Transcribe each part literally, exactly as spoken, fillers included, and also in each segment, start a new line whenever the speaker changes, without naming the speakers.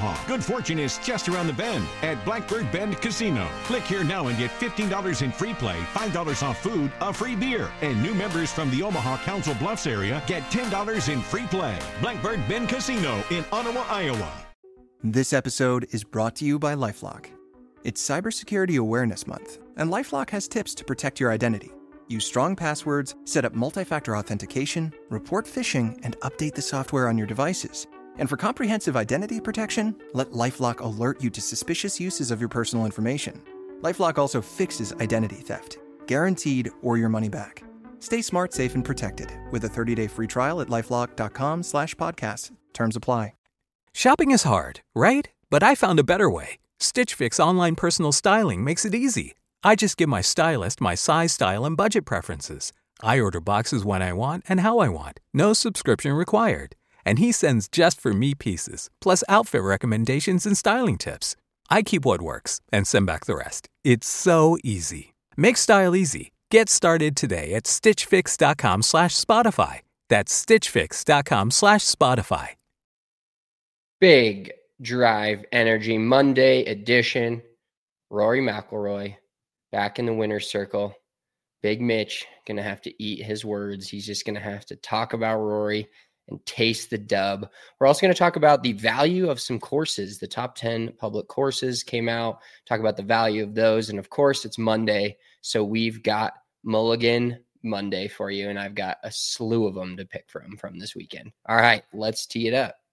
Omaha. Good fortune is just around the bend at Blackbird Bend Casino. Click here now and get fifteen dollars in free play, five dollars off food, a free beer. And new members from the Omaha Council Bluffs area get ten dollars in free play. Blackbird Bend Casino in Ottawa, Iowa.
This episode is brought to you by LifeLock. It's Cybersecurity Awareness Month, and LifeLock has tips to protect your identity. Use strong passwords, set up multi-factor authentication, report phishing, and update the software on your devices. And for comprehensive identity protection, let LifeLock alert you to suspicious uses of your personal information. LifeLock also fixes identity theft, guaranteed or your money back. Stay smart, safe, and protected with a thirty-day free trial at LifeLock.com slash podcast. Terms apply.
Shopping is hard, right? But I found a better way. Stitch Fix online personal styling makes it easy. I just give my stylist my size, style, and budget preferences. I order boxes when I want and how I want. No subscription required. And he sends just for me pieces, plus outfit recommendations and styling tips. I keep what works and send back the rest. It's so easy. Make style easy. Get started today at stitchfix.com slash Spotify. That's stitchfix.com slash Spotify.
Big Drive Energy Monday edition. Rory McIlroy back in the winner's circle. Big Mitch going to have to eat his words. He's just going to have to talk about Rory and taste the dub. We're also going to talk about the value of some courses. The top ten public courses came out. Talk about the value of those. And of course, it's Monday. So we've got Mulligan Monday for you. And I've got a slew of them to pick from from this weekend. All right, let's tee it up.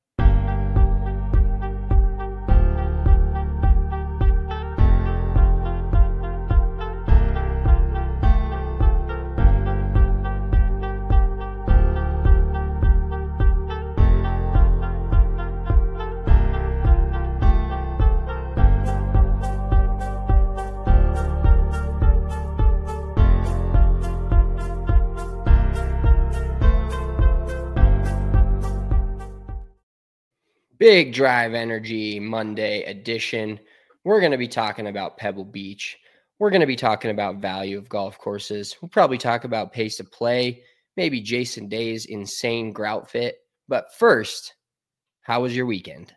Big Drive Energy Monday edition. We're going to be talking about Pebble Beach. We're going to be talking about value of golf courses. We'll probably talk about pace of play, maybe Jason Day's insane grout fit. But first, how was your weekend?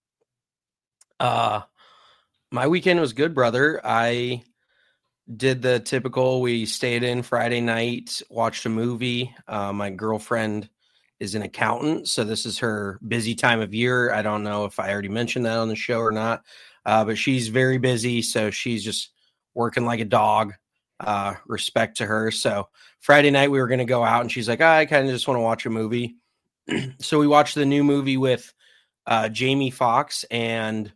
Uh, my weekend was good, brother. I did the typical, we stayed in Friday night, watched a movie. Uh, my girlfriend is an accountant, so this is her busy time of year. I don't know if I already mentioned that on the show or not, uh, but she's very busy, so she's just working like a dog. Uh, respect to her. So Friday night we were going to go out, and she's like, oh, I kind of just want to watch a movie. So we watched the new movie with uh, Jamie Foxx and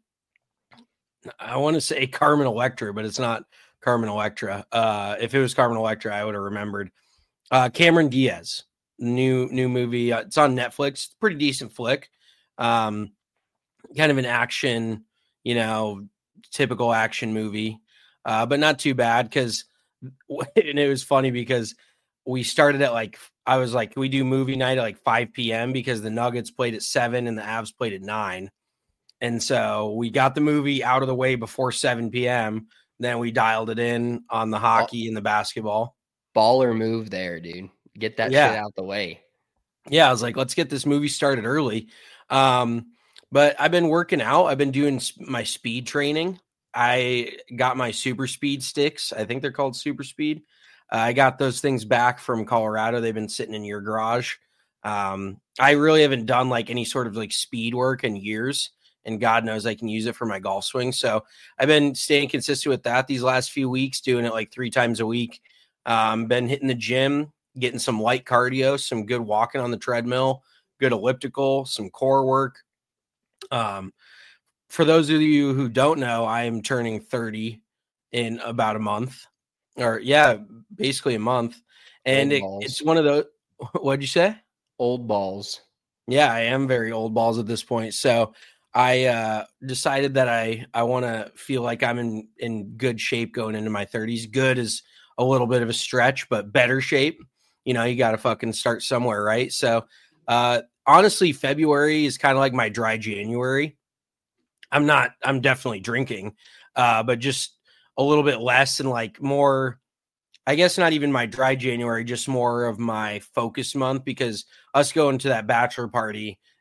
I want to say Carmen Electra, but it's not Carmen Electra. Uh, if it was Carmen Electra, I would have remembered. Uh, Cameron Diaz. New new movie. Uh, it's on Netflix. Pretty decent flick. Um, kind of an action, you know, typical action movie, uh, but not too bad. Because and it was funny because we started at like I was like we do movie night at like five p.m. because the Nuggets played at seven and the Avs played at nine, and so we got the movie out of the way before seven p.m. Then we dialed it in on the hockey and the basketball.
Baller move there, dude. Get that
yeah.
shit out the way.
Yeah, I was like, let's get this movie started early. Um, but I've been working out. I've been doing my speed training. I got my super speed sticks. I think they're called super speed. Uh, I got those things back from Colorado. They've been sitting in your garage. Um, I really haven't done like any sort of like speed work in years. And God knows I can use it for my golf swing. So I've been staying consistent with that these last few weeks, doing it like three times a week. Um, been hitting the gym, getting some light cardio, some good walking on the treadmill, good elliptical, some core work. Um, for those of you who don't know, I am turning thirty in about a month or yeah, basically a month. And it, it's one of those, what'd you say?
Old balls.
Yeah, I am very old balls at this point. So I uh, decided that I, I want to feel like I'm in, in good shape going into my thirties. Good is a little bit of a stretch, but better shape. You know, you got to fucking start somewhere, right? So, uh, honestly, February is kind of like my dry January. I'm not, I'm definitely drinking, uh, but just a little bit less and like more, I guess not even my dry January, just more of my focus month because us going to that bachelor party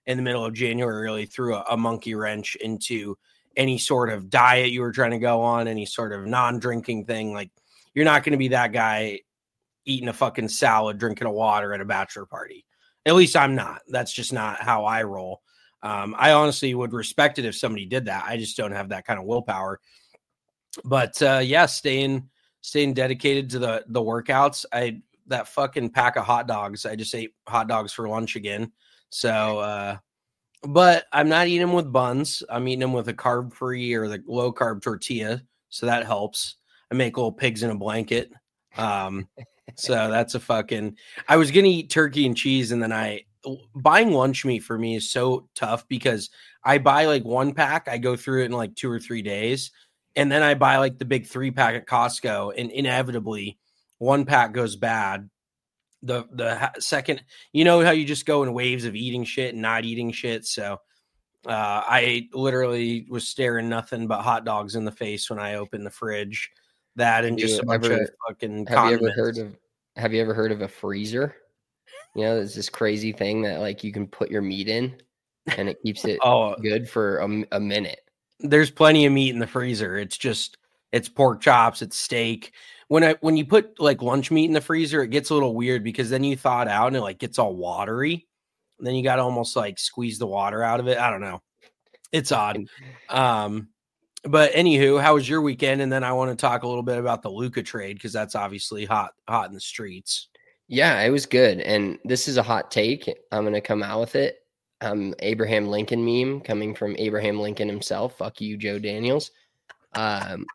in the middle of January really threw a, a monkey wrench into any sort of diet you were trying to go on, any sort of non-drinking thing. Like, you're not going to be that guy eating a fucking salad, drinking a water at a bachelor party. At least I'm not. That's just not how I roll. Um, I honestly would respect it if somebody did that. I just don't have that kind of willpower. But uh, yeah, staying staying dedicated to the the workouts. I that fucking pack of hot dogs. I just ate hot dogs for lunch again. So, uh, but I'm not eating them with buns. I'm eating them with a carb free or the low carb tortilla. So that helps. I make little pigs in a blanket. Um, so that's a fucking. I was gonna eat turkey and cheese, and then I buying lunch meat for me is so tough because I buy like one pack. I go through it in like two or three days. And then I buy like the big three pack at Costco, and inevitably one pack goes bad. The the second, you know how you just go in waves of eating shit and not eating shit. So uh, I literally was staring nothing but hot dogs in the face when I opened the fridge. That and just a bunch
ever,
of fucking.
Have condiments. you ever heard of? Have you ever heard of a freezer? You know, there's this crazy thing that like you can put your meat in, and it keeps it oh. good for a, a minute.
There's plenty of meat in the freezer. It's just, it's pork chops, it's steak. When I, when you put like lunch meat in the freezer, it gets a little weird because then you thaw it out and it like gets all watery. And then you got to almost like squeeze the water out of it. I don't know. It's odd. Um, but anywho, how was your weekend? And then I want to talk a little bit about the Luka trade because that's obviously hot, hot in the streets.
Yeah, it was good. And this is a hot take. I'm going to come out with it. Um, Abraham Lincoln meme coming from Abraham Lincoln himself. Fuck you, Joe Daniels. Um,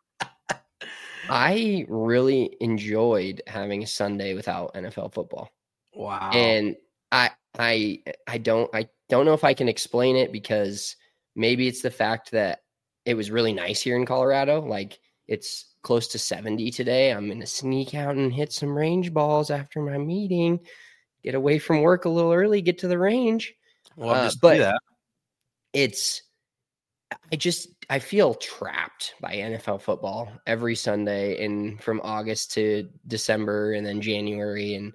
I really enjoyed having a Sunday without N F L football.
Wow.
And I, I, I don't, I don't know if I can explain it because maybe it's the fact that it was really nice here in Colorado. Like it's close to seventy today. I'm going to sneak out and hit some range balls after my meeting, get away from work a little early, get to the range.
Well,
uh,
just
but
do that.
It's, I just, I feel trapped by N F L football every Sunday and from August to December and then January. And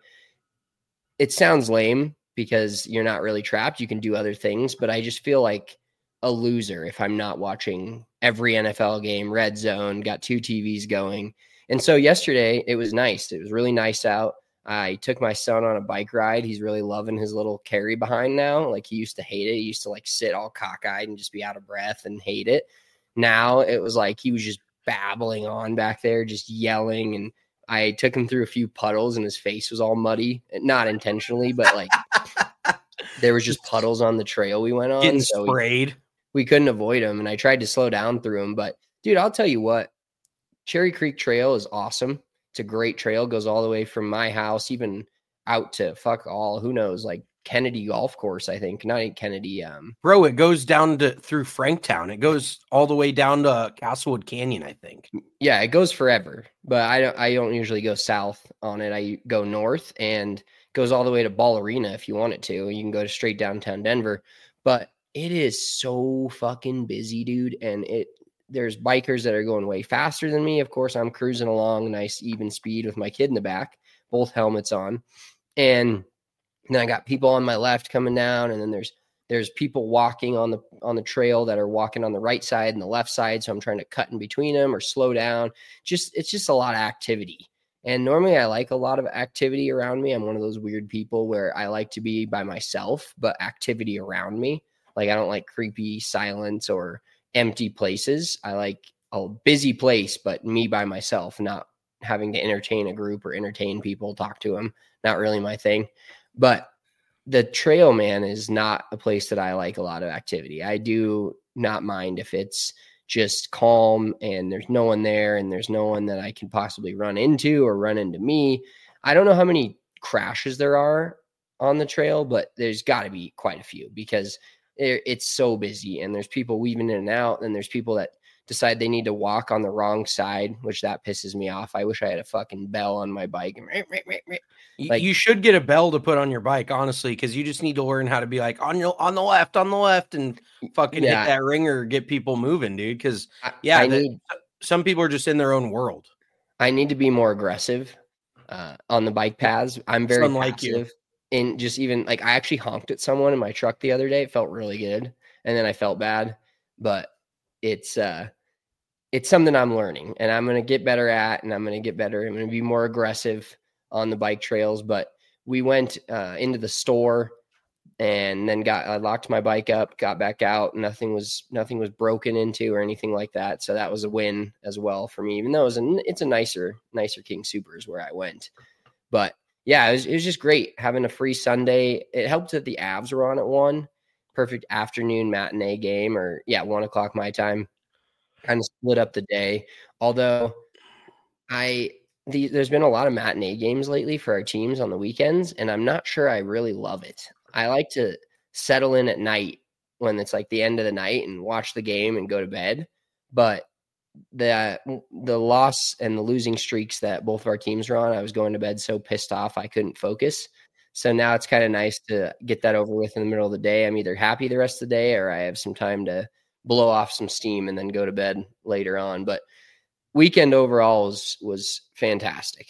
it sounds lame because you're not really trapped. You can do other things, but I just feel like a loser if I'm not watching every N F L game, red zone, got two T Vs going. And so yesterday it was nice. It was really nice out. I took my son on a bike ride. He's really loving his little carry behind now. Like he used to hate it. He used to like sit all cockeyed and just be out of breath and hate it. Now it was like he was just babbling on back there, just yelling. And I took him through a few puddles and his face was all muddy, not intentionally, but like there was just puddles on the trail we went on.
Getting
so
sprayed.
We, we couldn't avoid them. And I tried to slow down through them, but dude, I'll tell you what, Cherry Creek Trail is awesome. It's a great trail, goes all the way from my house, even out to fuck all, who knows, like Kennedy Golf Course, I think. Not Kennedy. Um,
Bro, it goes down to through Franktown. It goes all the way down to Castlewood Canyon, I think.
Yeah, it goes forever, but I don't I don't usually go south on it. I go north and goes all the way to Ball Arena if you want it to. You can go to straight downtown Denver, but it is so fucking busy, dude, and it there's bikers that are going way faster than me. Of course, I'm cruising along nice, even speed with my kid in the back, both helmets on. And then I got people on my left coming down. And then there's, there's people walking on the, on the trail that are walking on the right side and the left side. So I'm trying to cut in between them or slow down. Just, it's just a lot of activity. And normally I like a lot of activity around me. I'm one of those weird people where I like to be by myself, but activity around me. Like I don't like creepy silence or empty places. I like a busy place, but me by myself, not having to entertain a group or entertain people, talk to them. Not really my thing. But the trail, man, is not a place that I like a lot of activity. I do not mind if it's just calm and there's no one there and there's no one that I can possibly run into or run into me. I don't know how many crashes there are on the trail, but there's got to be quite a few because it's so busy and there's people weaving in and out and there's people that decide they need to walk on the wrong side, which that pisses me off. I wish I had a fucking bell on my bike.
Like, you should get a bell to put on your bike, honestly, because you just need to learn how to be like on your on the left, on the left, and fucking yeah. hit that ringer, get people moving, dude. Because yeah, I the, need, some people are just in their own world.
I need to be more aggressive uh, on the bike paths. I'm very passive. You. and just even like I actually honked at someone in my truck the other day. It felt really good. And then I felt bad, but it's, uh, it's something I'm learning and I'm going to get better at, and I'm going to get better. I'm going to be more aggressive on the bike trails. But we went uh, into the store and then got, I locked my bike up, got back out. Nothing was, nothing was broken into or anything like that. So that was a win as well for me, even though it was a, it's a nicer, nicer King Soopers where I went. But yeah, it was, it was just great having a free Sunday. It helped that the Avs were on at one. Perfect afternoon matinee game, or yeah, one o'clock my time. Kind of split up the day. Although I, the, there's been a lot of matinee games lately for our teams on the weekends, and I'm not sure I really love it. I like to settle in at night when it's like the end of the night and watch the game and go to bed. But the the loss and the losing streaks that both of our teams were on, I was going to bed so pissed off I couldn't focus. So now it's kind of nice to get that over with in the middle of the day. I'm either happy the rest of the day or I have some time to blow off some steam and then go to bed later on. But weekend overall was, was fantastic.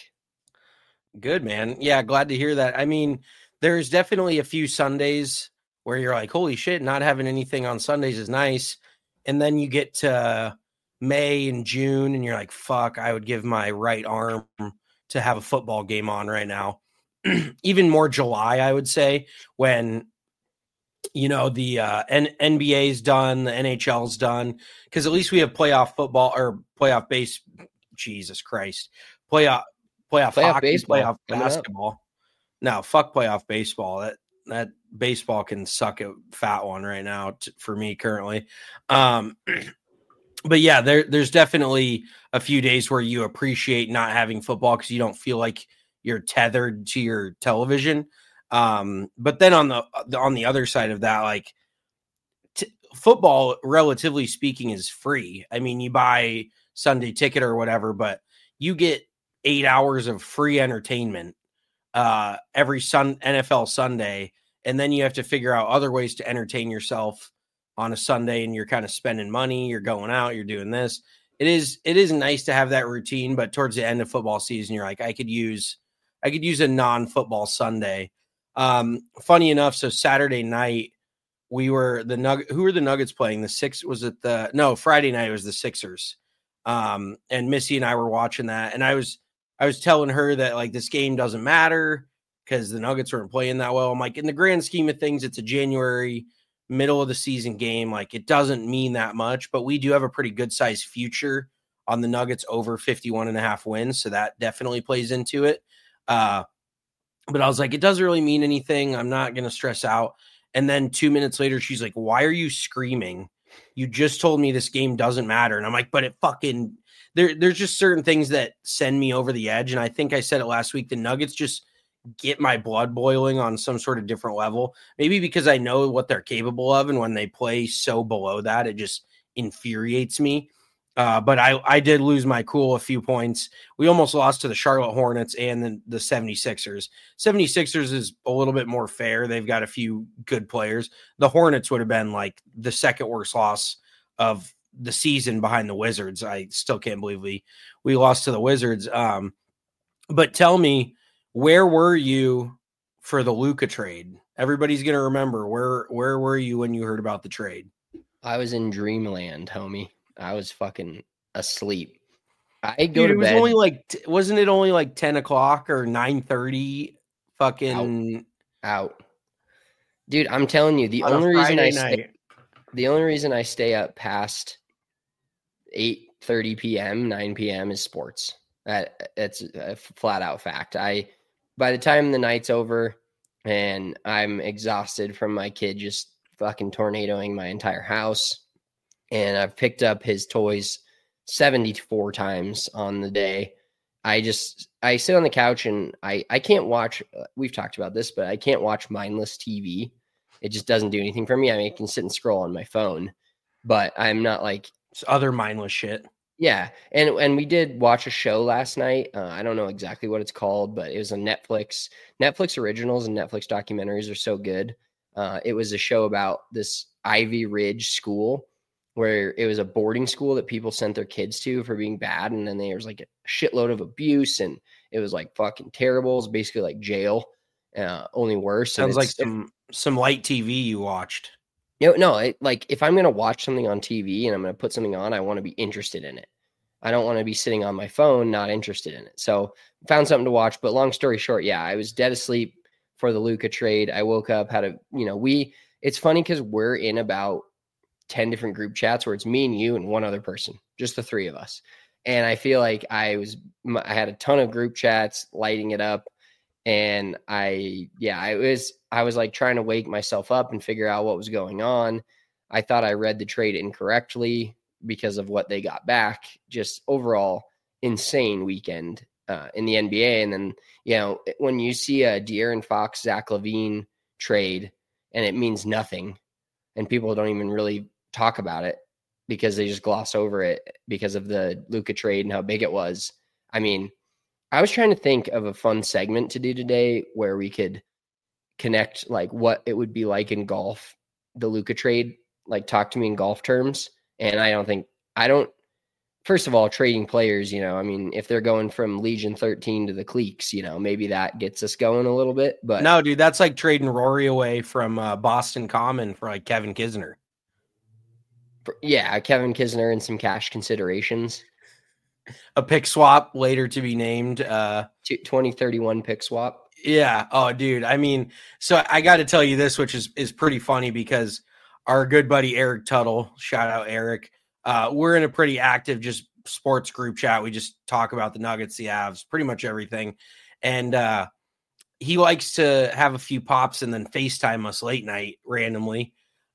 Good, man. Yeah, glad to hear that. I mean, there's definitely a few Sundays where you're like, holy shit, not having anything on Sundays is nice. And then you get to May and June and you're like, fuck, I would give my right arm to have a football game on right now. Even more July, I would say, when, you know, the uh, N- NBA's done, the N H L's done, because at least we have playoff football or playoff base. Jesus Christ. Playoff, playoff,
Playoff
hockey,
baseball.
playoff basketball. No, fuck playoff baseball. That that baseball can suck a fat one right now t- for me currently. Um, but yeah, there there's definitely a few days where you appreciate not having football because you don't feel like you're tethered to your television. Um, but then on the on the other side of that, like t- football, relatively speaking, is free. I mean, you buy Sunday ticket or whatever, but you get eight hours of free entertainment uh, every sun N F L Sunday, and then you have to figure out other ways to entertain yourself on a Sunday. And you're kind of spending money. You're going out. You're doing this. It is it is nice to have that routine, but towards the end of football season, you're like, I could use I could use a non-football Sunday. Um, funny enough, so Saturday night we were the Nug. Who were the Nuggets playing? The six was it the no Friday night it was the Sixers. Um, and Missy and I were watching that, and I was I was telling her that like this game doesn't matter because the Nuggets weren't playing that well. I'm like, in the grand scheme of things, it's a January middle of the season game. Like it doesn't mean that much, but we do have a pretty good sized future on the Nuggets over fifty-one and a half wins, so that definitely plays into it. Uh, but I was like, it doesn't really mean anything. I'm not going to stress out. And then two minutes later, she's like, why are you screaming? You just told me this game doesn't matter. And I'm like, but it fucking, there, there's just certain things that send me over the edge. And I think I said it last week, the Nuggets just get my blood boiling on some sort of different level. Maybe because I know what they're capable of. And when they play so below that, it just infuriates me. Uh, but I, I did lose my cool a few points. We almost lost to the Charlotte Hornets and the, the seventy-sixers. seventy-sixers is a little bit more fair. They've got a few good players. The Hornets would have been like the second worst loss of the season behind the Wizards. I still can't believe we, we lost to the Wizards. Um, but tell me, where were you for the Luka trade? Everybody's going to remember. Where, where were you when you heard about the trade?
I was in dreamland, homie. I was fucking asleep. I go
Dude,
to
it was
bed.
only like, wasn't it only like ten o'clock or nine thirty? Fucking
out. out. Dude, I'm telling you, the
on a
only reason I
Friday
stay,
night.
the only reason I stay up past eight thirty p.m., nine p.m. is sports. That that's a flat out fact. I, by the time the night's over and I'm exhausted from my kid just fucking tornadoing my entire house, and I've picked up his toys seventy-four times on the day, I just, I sit on the couch and I, I can't watch, we've talked about this, but I can't watch mindless T V. It just doesn't do anything for me. I mean, I can sit and scroll on my phone, but I'm not like
It's other mindless shit.
Yeah, and and we did watch a show last night. Uh, I don't know exactly what it's called, but it was a Netflix. Netflix originals and Netflix documentaries are so good. Uh, it was a show about this Ivy Ridge school where it was a boarding school that people sent their kids to for being bad, and then there was like a shitload of abuse, and it was like fucking terrible. It was basically like jail. uh, only worse.
Sounds like some some light T V you watched.
You know, no, it, like if I'm going to watch something on T V and I'm going to put something on, I want to be interested in it. I don't want to be sitting on my phone, not interested in it. So found something to watch, but long story short, yeah, I was dead asleep for the Luka trade. I woke up, had a, you know, we, it's funny because we're in about ten different group chats where it's me and you and one other person, just the three of us. And I feel like I was, I had a ton of group chats lighting it up. And I, yeah, I was, I was like trying to wake myself up and figure out what was going on. I thought I read the trade incorrectly because of what they got back. Just overall insane weekend uh, in the N B A. And then, you know, when you see a De'Aaron Fox, Zach LaVine trade and it means nothing and people don't even really talk about it because they just gloss over it because of the Luka trade and how big it was. I mean, I was trying to think of a fun segment to do today where we could connect like what it would be like in golf, the Luka trade, like talk to me in golf terms. And I don't think, I don't, first of all, trading players, you know, I mean, if they're going from Legion thirteen to the Cleeks, you know, maybe that gets us going a little bit, but
no, dude, that's like trading Rory away from uh, Boston Common for like Kevin Kisner.
Yeah. Kevin Kisner and some cash considerations.
A pick swap later to be named. Uh,
twenty thirty-one pick swap.
Yeah. Oh, dude. I mean, so I got to tell you this, which is, is pretty funny because our good buddy Eric Tuttle, shout out Eric. Uh, we're in a pretty active just sports group chat. We just talk about the Nuggets, the Avs, pretty much everything. And uh, he likes to have a few pops and then FaceTime us late night randomly.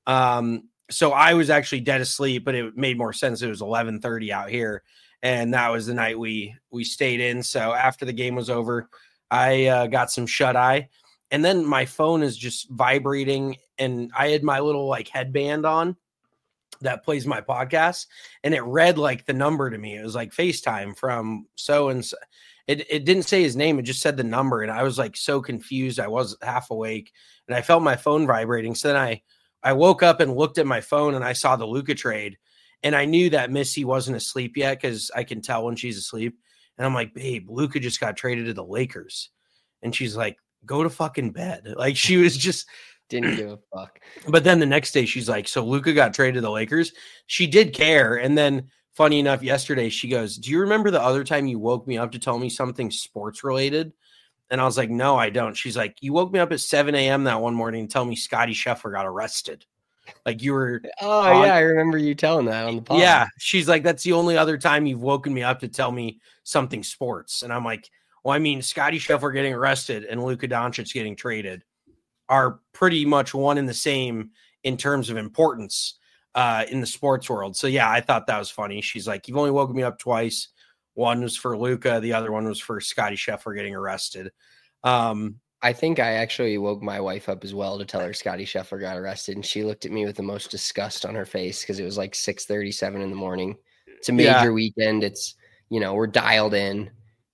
Um, so I was actually dead asleep, but it made more sense. It was eleven thirty out here. And that was the night we we stayed in. So after the game was over, I uh, got some shut eye. And then my phone is just vibrating. And I had my little like headband on that plays my podcast. And it read like the number to me. It was like FaceTime from so and so. It, it didn't say his name. It just said the number. And I was like so confused. I was half awake. And I felt my phone vibrating. So then I, I woke up and looked at my phone and I saw the Luka trade. And I knew that Missy wasn't asleep yet because I can tell when she's asleep. And I'm like, babe, Luka just got traded to the Lakers. And she's like, go to fucking bed. Like she was just
didn't give a fuck.
But then the next day she's like, so Luka got traded to the Lakers. She did care. And then funny enough, yesterday she goes, do you remember the other time you woke me up to tell me something sports related? And I was like, no, I don't. She's like, you woke me up at seven a.m. that one morning and tell me Scotty Scheffler got arrested. Like you were.
Oh on, yeah. I remember you telling that on the pod.
Yeah. She's like, that's the only other time you've woken me up to tell me something sports. And I'm like, well, I mean, Scotty Scheffler getting arrested and Luka Doncic getting traded are pretty much one and the same in terms of importance uh, in the sports world. So yeah, I thought that was funny. She's like, you've only woken me up twice. One was for Luka. The other one was for Scotty Scheffler getting arrested. Um,
I think I actually woke my wife up as well to tell her Scotty Scheffler got arrested. And she looked at me with the most disgust on her face because it was like six thirty-seven in the morning. It's a major yeah. weekend. It's, you know, we're dialed in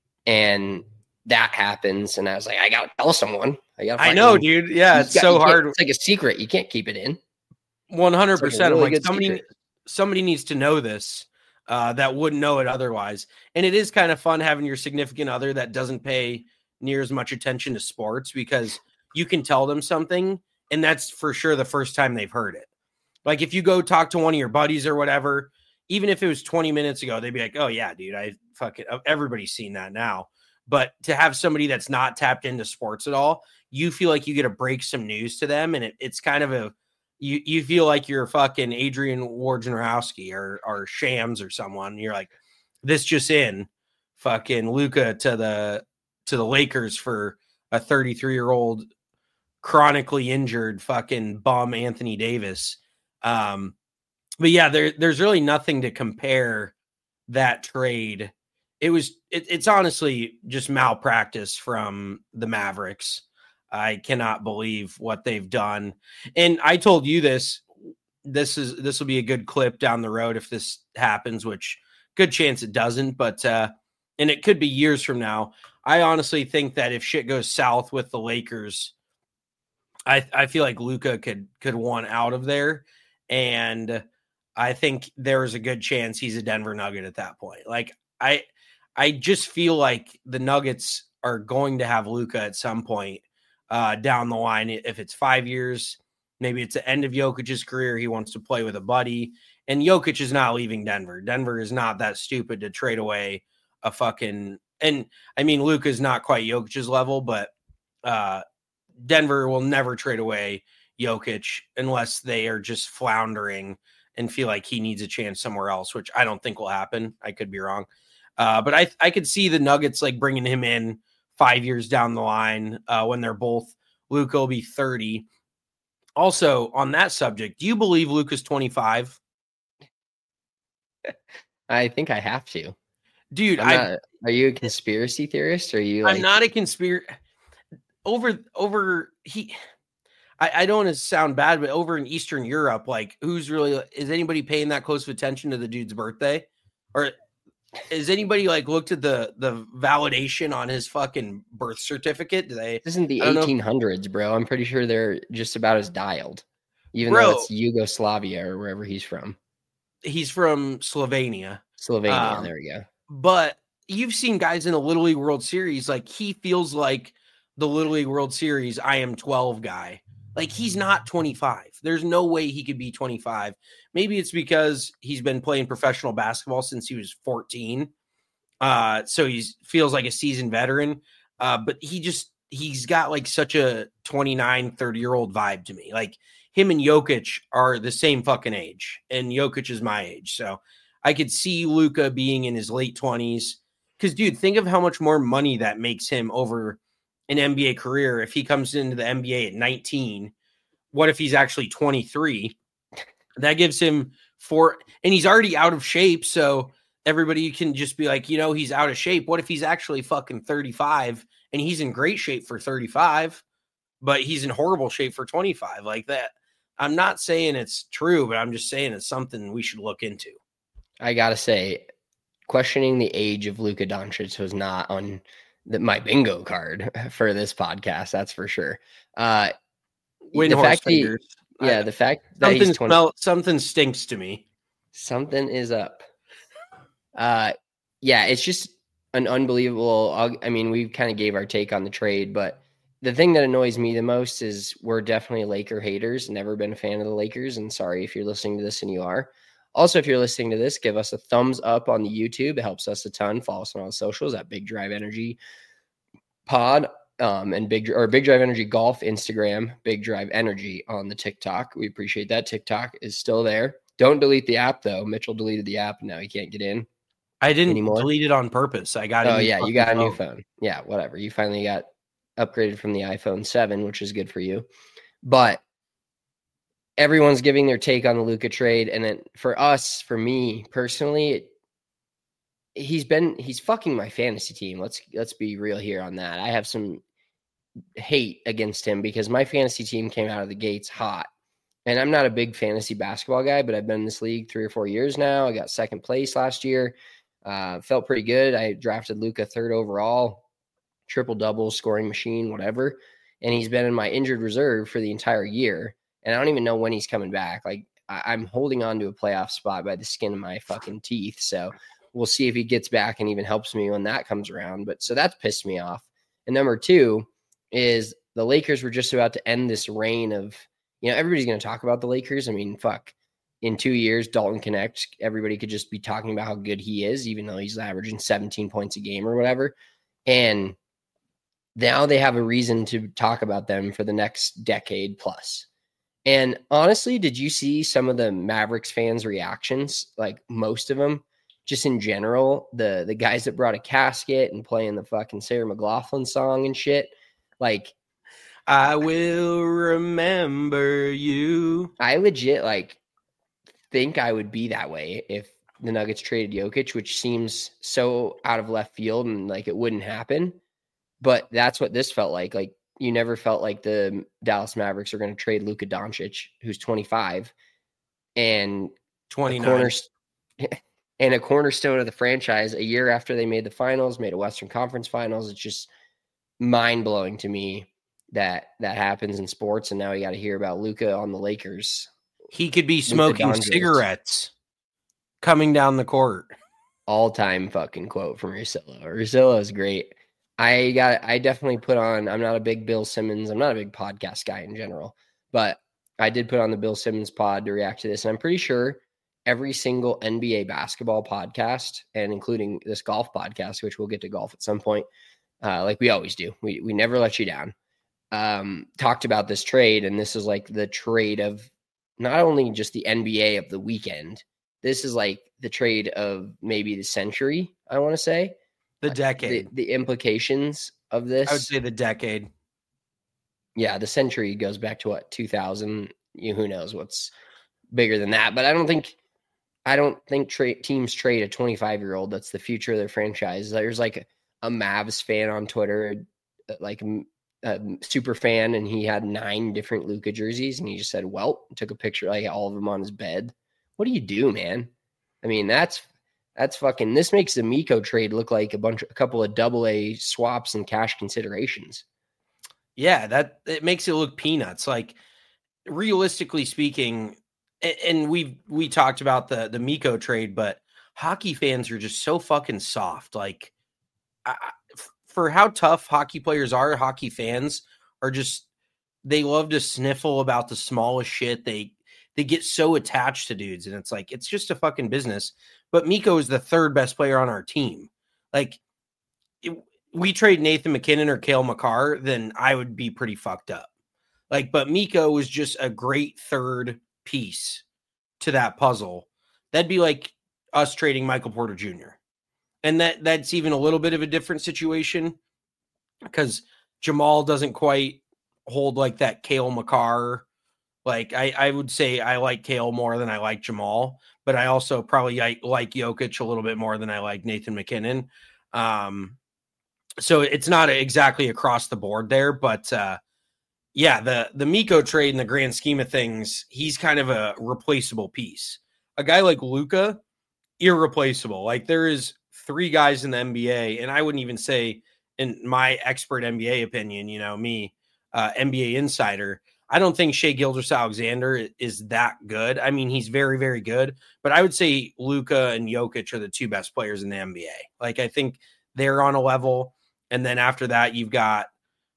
and that happens. And I was like, I got to tell someone. I, gotta
I know, dude. Yeah, it's
got,
so hard.
It's like a secret. You can't keep it in.
one hundred percent.
Like
I'm like, somebody, secret. somebody needs to know this uh, that wouldn't know it otherwise. And it is kind of fun having your significant other that doesn't pay near as much attention to sports because you can tell them something and that's for sure the first time they've heard it. Like if you go talk to one of your buddies or whatever, even if it was twenty minutes ago, they'd be like, oh yeah, dude, I fucking, everybody's seen that now. But to have somebody that's not tapped into sports at all, you feel like you get to break some news to them. And it, it's kind of a, you, you feel like you're fucking Adrian Wojnarowski or, or Shams or someone. You're like, this just in, fucking Luka to the, to the Lakers for a thirty-three year old chronically injured fucking bum Anthony Davis. Um, but yeah, there, there's really nothing to compare that trade. It was, it, it's honestly just malpractice from the Mavericks. I cannot believe what they've done. And I told you this, this is, this will be a good clip down the road if this happens, which good chance it doesn't, but, uh, and it could be years from now. I honestly think that if shit goes south with the Lakers, I I feel like Luka could could want out of there, and I think there is a good chance he's a Denver Nugget at that point. Like I I just feel like the Nuggets are going to have Luka at some point. uh, down the line. If it's five years, maybe it's the end of Jokic's career. He wants to play with a buddy. And Jokic is not leaving Denver. Denver is not that stupid to trade away a fucking – and, I mean, Luka's not quite Jokic's level, but uh, Denver will never trade away Jokic unless they are just floundering and feel like he needs a chance somewhere else, which I don't think will happen. I could be wrong. Uh, but I I could see the Nuggets like bringing him in five years down the line uh, when they're both – Luka will be thirty. Also, on that subject, do you believe Luka's twenty-five?
I think I have to.
Dude,
I'm
I
not, are you a conspiracy theorist? Or are you? Like,
I'm not a conspiracy. Over over he. I, I don't want to sound bad, but over in Eastern Europe, like who's really is anybody paying that close of attention to the dude's birthday, or is anybody like looked at the the validation on his fucking birth certificate? Do they?
This isn't the eighteen hundreds, bro. I'm pretty sure they're just about as dialed, even
bro,
though it's Yugoslavia or wherever he's from.
He's from Slovenia.
Slovenia.
Um,
there we go.
But you've seen guys in the Little League World Series, like he feels like the Little League World Series I am twelve guy. Like he's not twenty-five. There's no way he could be twenty-five. Maybe it's because he's been playing professional basketball since he was fourteen. Uh, so he feels like a seasoned veteran. Uh, but he just, he's got like such a twenty-nine, thirty year old vibe to me. Like him and Jokic are the same fucking age, and Jokic is my age. So I could see Luka being in his late twenties. Because, dude, think of how much more money that makes him over an N B A career if he comes into the N B A at nineteen. What if he's actually twenty-three? That gives him four, and he's already out of shape. So everybody can just be like, you know, he's out of shape. What if he's actually fucking thirty-five and he's in great shape for thirty-five, but he's in horrible shape for twenty-five? Like that. I'm not saying it's true, but I'm just saying it's something we should look into.
I gotta say, questioning the age of Luka Doncic was not on the, my bingo card for this podcast. That's for sure. Uh,
Win
the
horse
fact he,
fingers.
yeah,
I,
the fact that
something
he's twenty,
smell, something stinks to me.
Something is up. Uh, yeah, it's just an unbelievable. I mean, we kind of gave our take on the trade, but the thing that annoys me the most is we're definitely Laker haters. Never been a fan of the Lakers, and sorry if you're listening to this and you are. Also, if you're listening to this, give us a thumbs up on the YouTube. It helps us a ton. Follow us on all the socials at Big Drive Energy Pod. Um, and big or Big Drive Energy Golf Instagram, Big Drive Energy on the TikTok. We appreciate that. TikTok is still there. Don't delete the app though. Mitchell deleted the app and now he can't get in.
I didn't
anymore.
delete it on purpose. I got it.
Oh yeah, you got a new phone. Yeah, whatever. You finally got upgraded from the iPhone seven, which is good for you. But everyone's giving their take on the Luka trade, and then for us, for me personally, it, he's been he's fucking my fantasy team. Let's let's be real here on that. I have some hate against him because my fantasy team came out of the gates hot. And I'm not a big fantasy basketball guy, but I've been in this league three or four years now. I got second place last year. Uh, felt pretty good. I drafted Luka third overall, triple double, scoring machine, whatever. And he's been in my injured reserve for the entire year. And I don't even know when he's coming back. Like I- I'm holding on to a playoff spot by the skin of my fucking teeth. So we'll see if he gets back and even helps me when that comes around. But so that's pissed me off. And number two is the Lakers were just about to end this reign of, you know, everybody's going to talk about the Lakers. I mean, fuck, in two years, Dalton Connect, everybody could just be talking about how good he is, even though he's averaging seventeen points a game or whatever. And now they have a reason to talk about them for the next decade plus. And honestly, did you see some of the Mavericks fans' reactions? Like most of them, just in general, the the guys that brought a casket and playing the fucking Sarah McLachlan song and shit. Like,
I will remember you.
I legit like think I would be that way if the Nuggets traded Jokic, which seems so out of left field and like it wouldn't happen. But that's what this felt like. Like you never felt like the Dallas Mavericks are going to trade Luka Doncic, who's twenty-five, and
twenty-nine.
A corner, and a cornerstone of the franchise a year after they made the finals, made a Western Conference Finals. It's just mind-blowing to me that that happens in sports, and now you got to hear about Luka on the Lakers.
He could be smoking cigarettes coming down the court.
All-time fucking quote from Russillo. Russillo is great. I got, I definitely put on, I'm not a big Bill Simmons. I'm not a big podcast guy in general, but I did put on the Bill Simmons pod to react to this. And I'm pretty sure every single N B A basketball podcast, and including this golf podcast, which we'll get to golf at some point, uh, like we always do, we we never let you down, um, talked about this trade. And this is like the trade of not only just the N B A of the weekend, this is like the trade of maybe the century, I want to say.
The decade.
The, the implications of this.
I would say the decade.
Yeah, the century goes back to what, two thousand? You, who knows what's bigger than that. But I don't think I don't think tra- teams trade a twenty-five-year-old that's the future of their franchise. There's like a, a Mavs fan on Twitter, like a super fan, and he had nine different Luka jerseys, and he just said, well, took a picture, like all of them on his bed. What do you do, man? I mean, that's That's fucking, this makes the Miko trade look like a bunch, a couple of double A swaps and cash considerations.
Yeah, that it makes it look peanuts. Like, realistically speaking, and we we talked about the the Miko trade, but hockey fans are just so fucking soft. Like, I, for how tough hockey players are, hockey fans are just, they love to sniffle about the smallest shit. They they get so attached to dudes, and it's like, it's just a fucking business. But Miko is the third best player on our team. Like, it, we trade Nathan McKinnon or Cale Makar, then I would be pretty fucked up. Like, but Miko was just a great third piece to that puzzle. That'd be like us trading Michael Porter Junior And that that's even a little bit of a different situation because Jamal doesn't quite hold like that Cale Makar. Like, I, I would say I like Cale more than I like Jamal, but I also probably like, like Jokic a little bit more than I like Nathan McKinnon. Um, so it's not exactly across the board there, but uh, yeah, the, the Miko trade in the grand scheme of things, he's kind of a replaceable piece. A guy like Luka, irreplaceable. Like, there is three guys in the N B A, and I wouldn't even say, in my expert N B A opinion, you know, me, uh, N B A insider, I don't think Shai Gilgeous-Alexander is that good. I mean, he's very, very good, but I would say Luka and Jokic are the two best players in the N B A. Like, I think they're on a level. And then after that, you've got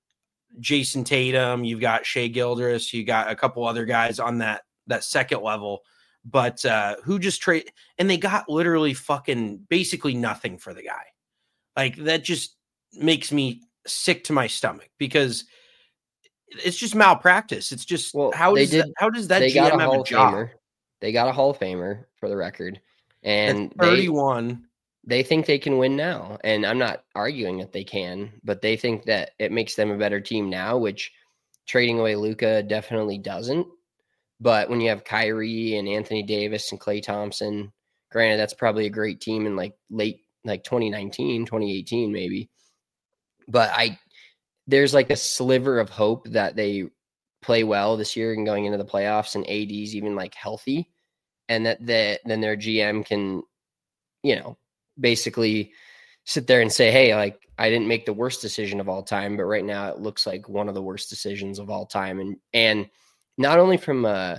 Jason Tatum, you've got Shai Gilgeous, you got a couple other guys on that, that second level, but uh, who just trade, and they got literally fucking basically nothing for the guy. Like, that just makes me sick to my stomach because it's just malpractice. It's just, well, how does did, that, how does that
they
G M
got a
have
Hall
a job?
Famer. They got a Hall of Famer, for the record, and
That's thirty-one.
They, they think they can win now, and I'm not arguing that they can, but they think that it makes them a better team now, which trading away Luka definitely doesn't. But when you have Kyrie and Anthony Davis and Klay Thompson, granted, that's probably a great team in like late, like twenty nineteen, twenty eighteen, maybe. But I, there's like a sliver of hope that they play well this year and going into the playoffs, and A D's even like healthy, and that the, then their G M can, you know, basically sit there and say, hey, like, I didn't make the worst decision of all time, but right now it looks like one of the worst decisions of all time. And, and not only from, uh,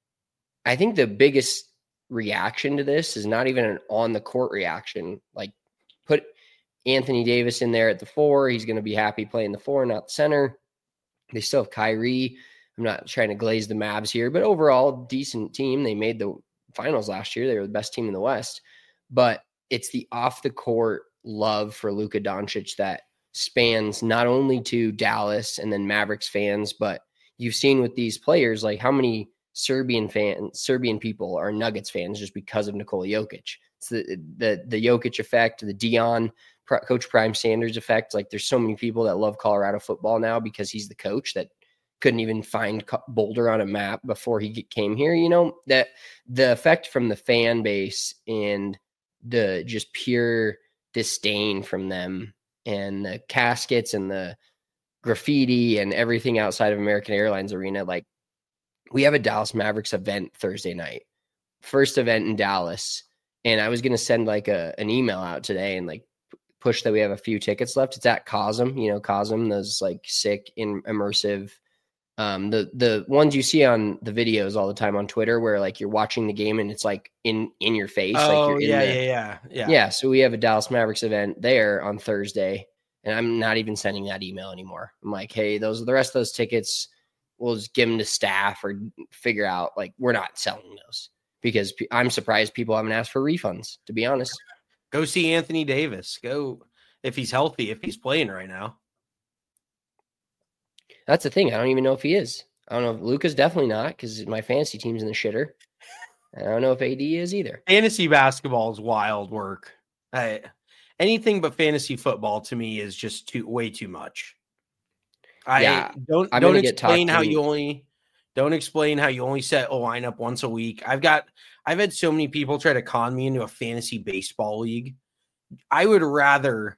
I think the biggest reaction to this is not even an on the court reaction. Like, put Anthony Davis in there at the four. He's going to be happy playing the four, not the center. They still have Kyrie. I'm not trying to glaze the Mavs here, but overall decent team. They made the finals last year. They were the best team in the West, but it's the off the court love for Luka Doncic that spans not only to Dallas and then Mavericks fans, but you've seen with these players, like how many Serbian fans, Serbian people are Nuggets fans just because of Nikola Jokic. It's the, the, the Jokic effect, the Dion, Coach Prime Sanders effect. Like, there's so many people that love Colorado football now because he's the coach that couldn't even find Boulder on a map before he came here. You know, that the effect from the fan base and the just pure disdain from them and the caskets and the graffiti and everything outside of American Airlines Arena. Like, we have a Dallas Mavericks event Thursday night, first event in Dallas. And I was going to send like a, an email out today and like push that we have a few tickets left. It's at Cosm, you know, Cosm, those like sick in immersive, um, the, the ones you see on the videos all the time on Twitter where like you're watching the game and it's like in, in your face.
Oh,
like you're in
yeah,
the,
yeah, yeah, yeah.
Yeah. So we have a Dallas Mavericks event there on Thursday And I'm not even sending that email anymore. I'm like, hey, those are the rest of those tickets. We'll just give them to staff or figure out, like, we're not selling those, because I'm surprised people haven't asked for refunds, to be honest.
Go see Anthony Davis. Go if he's healthy, if he's playing right now.
That's the thing. I don't even know if he is. I don't know if Luka's definitely not, because my fantasy team's in the shitter. I don't know if A D is either.
Fantasy basketball is wild work. I, anything but fantasy football to me is just too way too much. I
yeah,
don't
I'm
don't explain how
in.
you only don't explain how you only set a lineup once a week. I've got I've had so many people try to con me into a fantasy baseball league. I would rather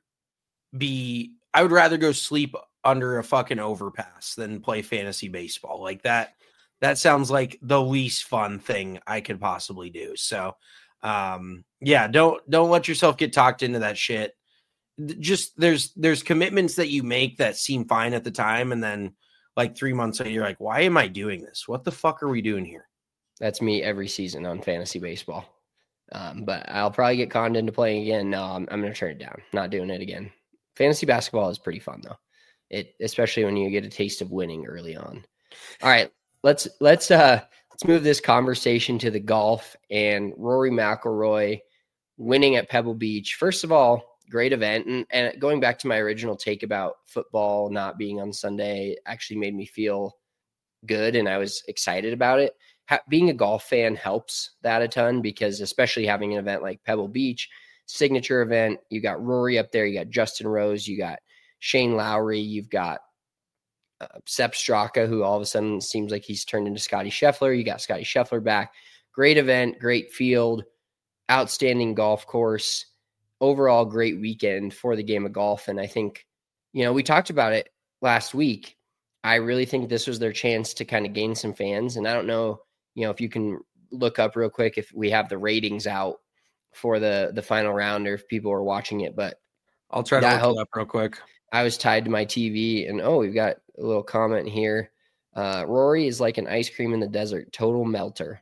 be I would rather go sleep under a fucking overpass than play fantasy baseball. Like that that sounds like the least fun thing I could possibly do. So um yeah, don't don't let yourself get talked into that shit. Just there's there's commitments that you make that seem fine at the time, and then like three months later, you're like, why am I doing this? What the fuck are we doing here?
That's me every season on fantasy baseball. Um, but I'll probably get conned into playing again. No, I'm, I'm going to turn it down. Not doing it again. Fantasy basketball is pretty fun though. It, especially when you get a taste of winning early on. All right, let's, let's, uh, let's move this conversation to the golf and Rory McIlroy winning at Pebble Beach. First of all, great event. And, and going back to my original take about football not being on Sunday actually made me feel good. And I was excited about it. Ha- being a golf fan helps that a ton, because especially having an event like Pebble Beach, signature event, you got Rory up there, you got Justin Rose, you got Shane Lowry, you've got uh, Sepp Straka, who all of a sudden seems like he's turned into Scotty Scheffler. You got Scotty Scheffler back. Great event, great field, outstanding golf course. Overall, great weekend for the game of golf. And I think, you know, we talked about it last week. I really think this was their chance to kind of gain some fans. And I don't know, you know, if you can look up real quick if we have the ratings out for the the final round or if people are watching it. But
I'll try to look helped. it up real quick.
I was tied to my T V, and oh, we've got a little comment here. Uh, Rory is like an ice cream in the desert, total melter.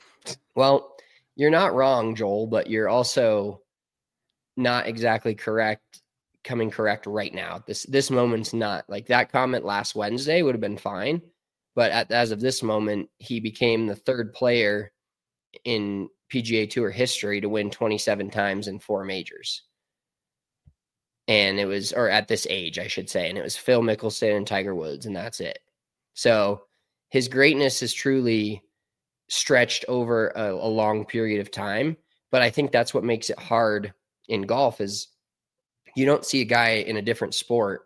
Well, you're not wrong, Joel, but you're also not exactly correct, coming correct right now. This this moment's not like that comment last Wednesday would have been fine. But at, as of this moment, he became the third player in P G A Tour history to win twenty-seven times in four majors. And it was, or at this age, I should say, and it was Phil Mickelson and Tiger Woods, and that's it. So his greatness is truly stretched over a, a long period of time. But I think that's what makes it hard in golf is you don't see a guy in a different sport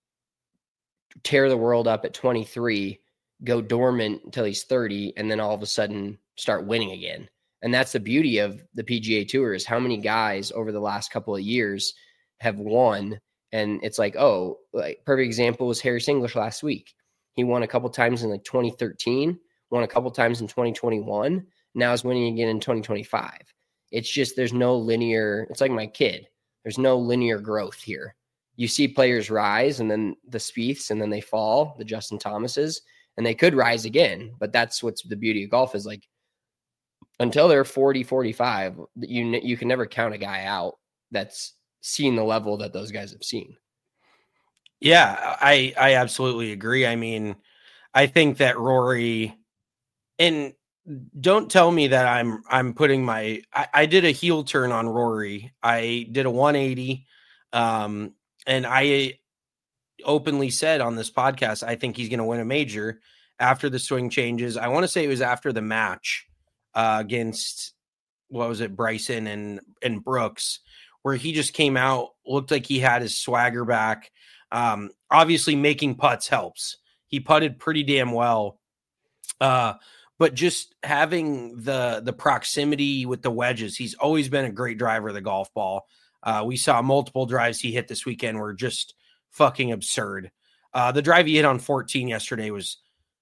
tear the world up at twenty-three, go dormant until he's thirty, and then all of a sudden start winning again. And that's the beauty of the P G A Tour is how many guys over the last couple of years have won. And it's like, oh, like perfect example was Harris English last week. He won a couple times in like twenty thirteen, won a couple times in twenty twenty-one. Now is winning again in twenty twenty-five. It's just, there's no linear, it's like my kid. There's no linear growth here. You see players rise and then the Spieths and then they fall, the Justin Thomases, and they could rise again. But that's what's the beauty of golf is like, until they're forty, forty-five, you, you can never count a guy out that's seen the level that those guys have seen.
Yeah, I, I absolutely agree. I mean, I think that Rory, and don't tell me that I'm I'm putting my I, I did a heel turn on Rory. I did a one eighty, um, and I openly said on this podcast I think he's going to win a major after the swing changes. I want to say it was after the match uh, against what was it, Bryson and and Brooks, where he just came out, looked like he had his swagger back. Um, obviously, making putts helps. He putted pretty damn well. Uh, But just having the the proximity with the wedges, he's always been a great driver of the golf ball. Uh, we saw multiple drives he hit this weekend were just fucking absurd. Uh, the drive he hit on fourteen yesterday was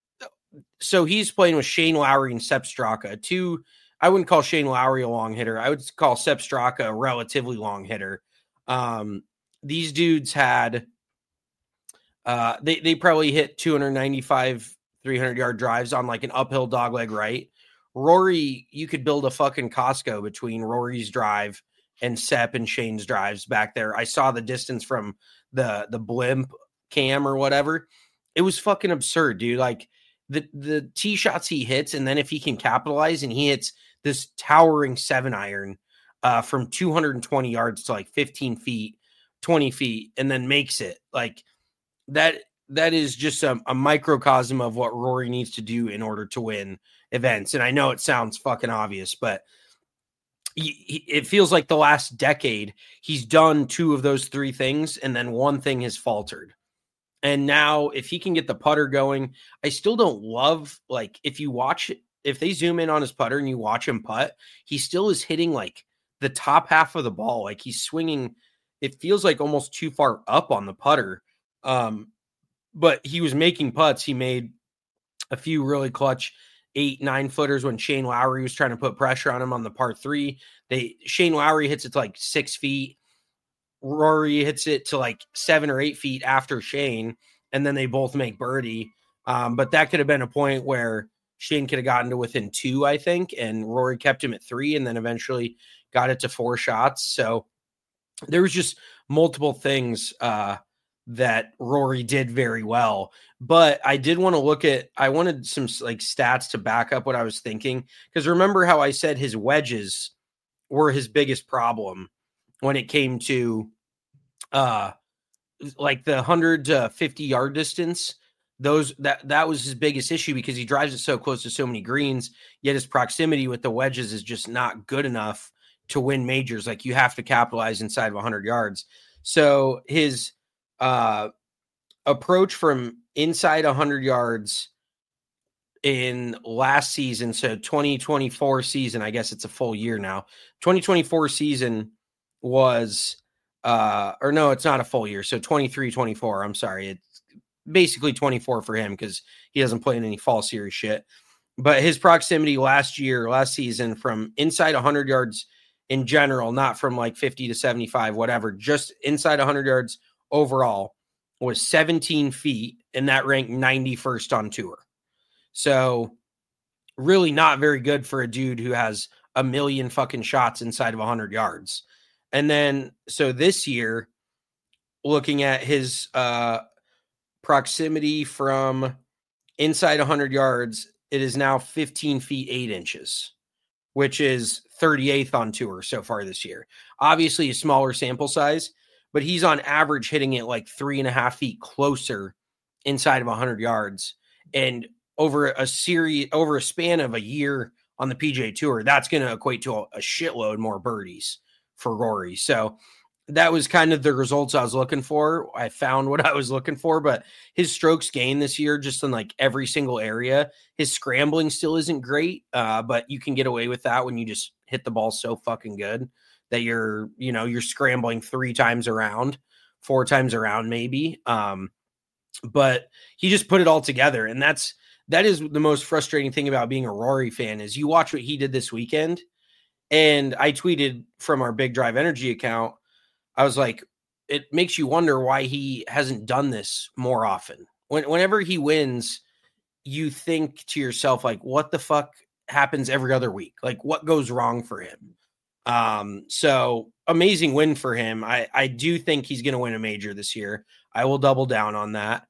so he's playing with Shane Lowry and Sepp Straka. Two, I wouldn't call Shane Lowry a long hitter. I would call Sepp Straka a relatively long hitter. Um, these dudes had uh, they they probably hit two ninety-five. three hundred yard drives on like an uphill dogleg right. Rory, you could build a fucking Costco between Rory's drive and Sepp and Shane's drives back there. I saw the distance from the the blimp cam or whatever. It was fucking absurd, dude. Like the the tee shots he hits, and then if he can capitalize and he hits this towering seven iron uh, from two hundred twenty yards to like fifteen feet, twenty feet, and then makes it like that. That is just a, a microcosm of what Rory needs to do in order to win events. And I know it sounds fucking obvious, but he, he, it feels like the last decade he's done two of those three things, and then one thing has faltered. And now if he can get the putter going, I still don't love, like, if you watch, if they zoom in on his putter and you watch him putt, he still is hitting like the top half of the ball. Like he's swinging, it feels like almost too far up on the putter. Um, But he was making putts. He made a few really clutch eight, nine footers when Shane Lowry was trying to put pressure on him on the par three. They Shane Lowry hits it to like six feet. Rory hits it to like seven or eight feet after Shane, and then they both make birdie. Um, but that could have been a point where Shane could have gotten to within two, I think, and Rory kept him at three, and then eventually got it to four shots. So there was just multiple things uh, that Rory did very well. But I did want to look at, I wanted some like stats to back up what I was thinking. Because remember how I said his wedges were his biggest problem when it came to uh, like the one hundred to fifty yard distance. Those that that was his biggest issue because he drives it so close to so many greens, yet his proximity with the wedges is just not good enough to win majors. Like you have to capitalize inside of one hundred yards. So his uh, approach from inside one hundred yards in last season, so twenty twenty-four season, I guess it's a full year now. twenty twenty-four season was, uh, or no, it's not a full year. So twenty-three twenty-four, I'm sorry. It's basically twenty-four for him because he hasn't played any fall series shit. But his proximity last year, last season, from inside one hundred yards in general, not from like fifty to seventy-five, whatever, just inside one hundred yards overall was seventeen feet, and that ranked ninety-first on tour. So really not very good for a dude who has a million fucking shots inside of one hundred yards. And then, so this year, looking at his uh, proximity from inside one hundred yards, it is now fifteen feet, eight inches, which is thirty-eighth on tour so far this year. Obviously a smaller sample size, but he's on average hitting it like three and a half feet closer inside of one hundred yards. And over a series, over a span of a year on the P G A Tour, that's going to equate to a, a shitload more birdies for Rory. So that was kind of the results I was looking for. I found what I was looking for, but his strokes gained this year just in like every single area. His scrambling still isn't great, uh, but you can get away with that when you just hit the ball so fucking good that you're, you know, you're scrambling three times around, four times around maybe. Um, but he just put it all together. And that's, that is the most frustrating thing about being a Rory fan is you watch what he did this weekend. And I tweeted from our Big Drive Energy account, I was like, it makes you wonder why he hasn't done this more often. When, whenever he wins, you think to yourself, like, what the fuck happens every other week? Like, what goes wrong for him? Um, so amazing win for him. I, I do think he's going to win a major this year. I will double down on that.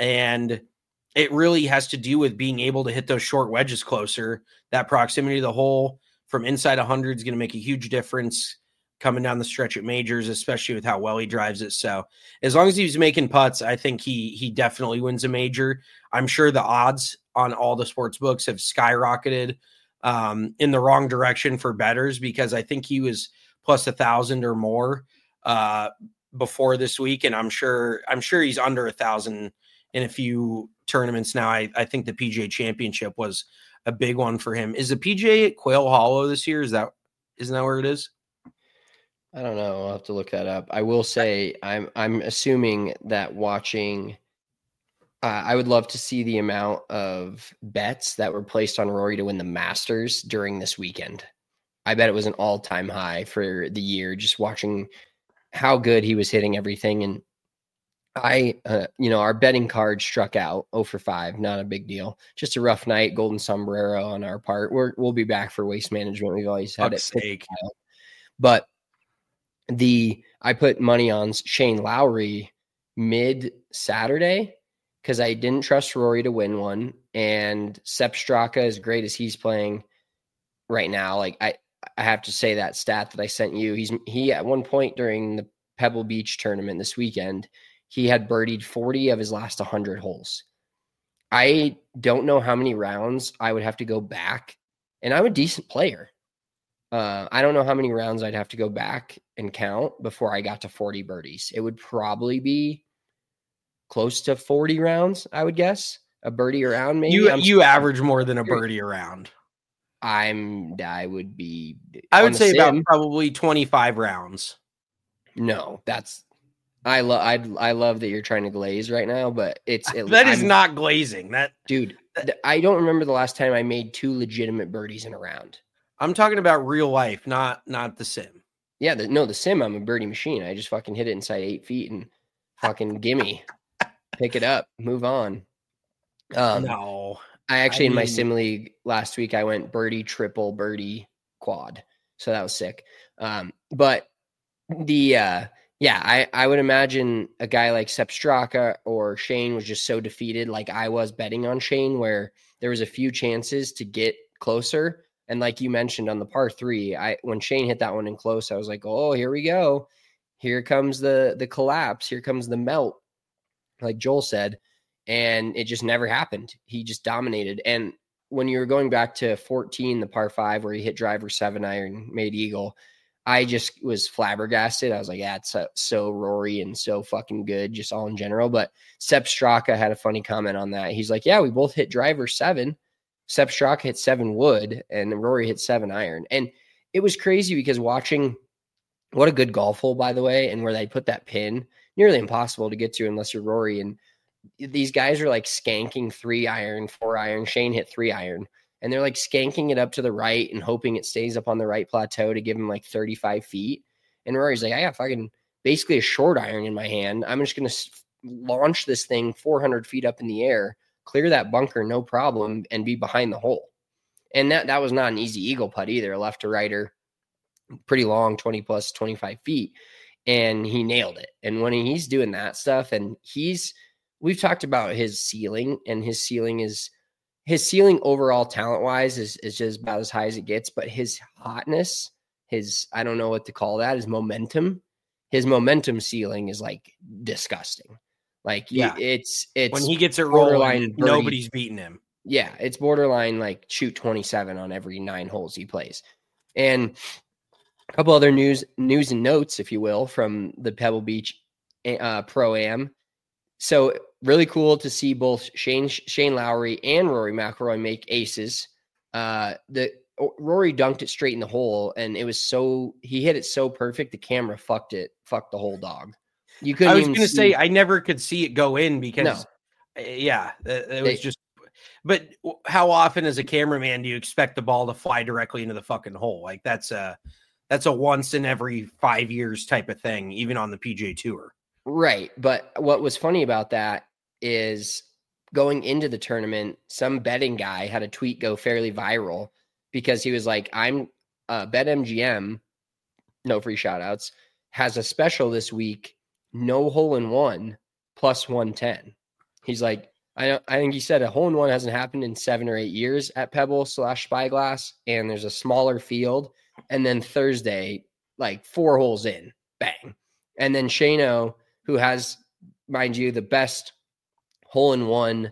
And it really has to do with being able to hit those short wedges closer. That proximity to the hole from inside one hundred is going to make a huge difference coming down the stretch at majors, especially with how well he drives it. So as long as he's making putts, I think he he definitely wins a major. I'm sure the odds on all the sports books have skyrocketed um, in the wrong direction for bettors because I think he was plus a thousand or more uh, before this week. And I'm sure, I'm sure he's under a thousand in a few tournaments now. I, I think the P G A Championship was a big one for him. Is the P G A at Quail Hollow this year? Is that, isn't that where it is?
I don't know. I'll have to look that up. I will say I'm I'm assuming that watching uh, I would love to see the amount of bets that were placed on Rory to win the Masters during this weekend. I bet it was an all-time high for the year, just watching how good he was hitting everything. And I, uh, you know, our betting card struck out oh for five, not a big deal. Just a rough night, golden sombrero on our part. We're, we'll be back for Waste Management. We've always had
Fuck's
it.
sake.
But the I put money on Shane Lowry mid Saturday because I didn't trust Rory to win one, and Sepp Straka, as great as he's playing right now, like I, I have to say that stat that I sent you. He's he at one point during the Pebble Beach tournament this weekend, he had birdied forty of his last one hundred holes. I don't know how many rounds I would have to go back, and I'm a decent player. Uh, I don't know how many rounds I'd have to go back and count before I got to forty birdies. It would probably be close to forty rounds, I would guess. A birdie around, maybe.
You
I'm,
you average more than a birdie around.
I'm. I would be.
I would say about probably twenty-five rounds.
No, that's. I love. I I love that you're trying to glaze right now, but it's it,
that is
I'm,
not glazing. That
dude. I don't remember the last time I made two legitimate birdies in a round.
I'm talking about real life, not not the sim.
Yeah, the, no, the sim. I'm a birdie machine. I just fucking hit it inside eight feet and fucking gimme, pick it up, move on. Um,
no,
I actually
I
in my
mean,
sim league last week I went birdie, triple, birdie, quad. So that was sick. Um, but the uh, yeah, I I would imagine a guy like Sepp Straka or Shane was just so defeated, like I was betting on Shane, where there was a few chances to get closer. And like you mentioned on the par three, I when Shane hit that one in close, I was like, oh, here we go. Here comes the the collapse. Here comes the melt, like Joel said. And it just never happened. He just dominated. And when you were going back to fourteen, the par five, where he hit driver seven iron, made eagle, I just was flabbergasted. I was like, yeah, it's so, so Rory and so fucking good, just all in general. But Sepp Straka had a funny comment on that. He's like, yeah, we both hit driver seven. Sepp Straka hit seven wood and Rory hit seven iron. And it was crazy because watching what a good golf hole, by the way, and where they put that pin, nearly impossible to get to unless you're Rory. And these guys are like skanking three iron, four iron. Shane hit three iron, and they're like skanking it up to the right and hoping it stays up on the right plateau to give him like thirty-five feet. And Rory's like, I got fucking basically a short iron in my hand. I'm just going to launch this thing four hundred feet up in the air, clear that bunker, no problem, and be behind the hole. And that, that was not an easy eagle putt either, left to righter, pretty long, twenty plus, twenty-five feet. And he nailed it. And when he's doing that stuff, and he's, we've talked about his ceiling, and his ceiling is, his ceiling overall talent wise is, is just about as high as it gets, but his hotness, his, I don't know what to call that, his momentum, his momentum ceiling is like disgusting. Like, yeah, it's, it's
when he gets it rolling, nobody's beating him.
Yeah. It's borderline like shoot twenty-seven on every nine holes he plays. And a couple other news, news and notes, if you will, from the Pebble Beach uh, Pro-Am. So really cool to see both Shane Shane Lowry and Rory McIlroy make aces. Uh, the Rory dunked it straight in the hole, and it was so he hit it so perfect the camera fucked it, fucked the whole dog. You couldn't.
I was
going
to say I never could see it go in because,
no.
yeah, it, it was
they,
just. But how often, as a cameraman, do you expect the ball to fly directly into the fucking hole? Like that's a that's a once in every five years type of thing, even on the P G A Tour.
Right. But what was funny about that is going into the tournament, some betting guy had a tweet go fairly viral because he was like, I'm uh, BetMGM, no free shout outs, has a special this week, no hole in one plus one ten. He's like, I, I think he said a hole in one hasn't happened in seven or eight years at Pebble slash Spyglass, and there's a smaller field. And then Thursday, like four holes in, bang. And then Shano, who has, mind you, the best hole-in-one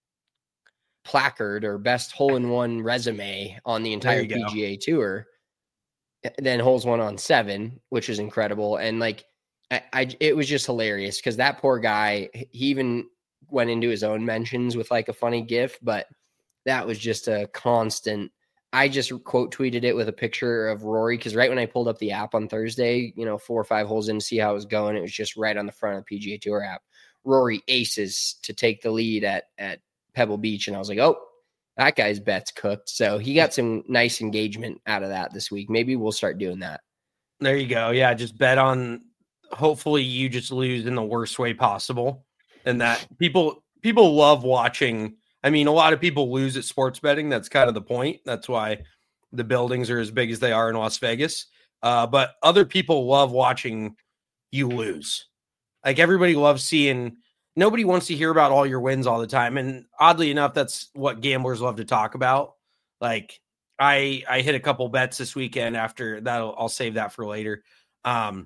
placard or best hole-in-one resume on the entire P G A go. Tour, then holes one on seven, which is incredible. And like, I, I it was just hilarious because that poor guy, he even went into his own mentions with like a funny gif, but that was just a constant. I just quote tweeted it with a picture of Rory because right when I pulled up the app on Thursday, you know, four or five holes in to see how it was going, it was just right on the front of the P G A Tour app. Rory aces to take the lead at at Pebble Beach, and I was like, oh, that guy's bet's cooked. So he got some nice engagement out of that this week. Maybe we'll start doing that.
There you go. Yeah, just bet on. Hopefully, you just lose in the worst way possible, and that people people love watching. I mean, a lot of people lose at sports betting. That's kind of the point. That's why the buildings are as big as they are in Las Vegas. Uh, but other people love watching you lose. Like everybody loves seeing, nobody wants to hear about all your wins all the time. And oddly enough, that's what gamblers love to talk about. Like I, I hit a couple bets this weekend after that. I'll save that for later. Um,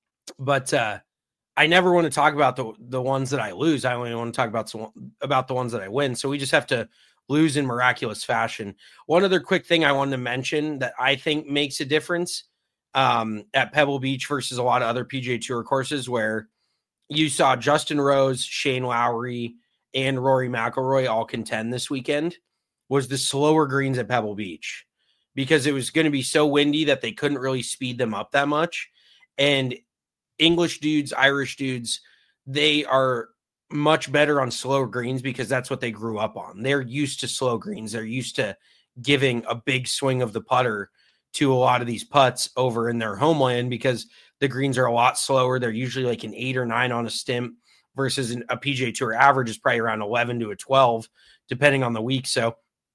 but, uh, I never want to talk about the, the ones that I lose. I only want to talk about, some, about the ones that I win. So we just have to lose in miraculous fashion. One other quick thing I wanted to mention that I think makes a difference um, at Pebble Beach versus a lot of other P G A Tour courses where you saw Justin Rose, Shane Lowry, and Rory McIlroy all contend this weekend was the slower greens at Pebble Beach because it was going to be so windy that they couldn't really speed them up that much. And English dudes, Irish dudes, they are much better on slow greens because that's what they grew up on. They're used to slow greens. They're used to giving a big swing of the putter to a lot of these putts over in their homeland because the greens are a lot slower. They're usually like an eight or nine on a stimp versus an, a P G A Tour average is probably around eleven to a twelve, depending on the week. So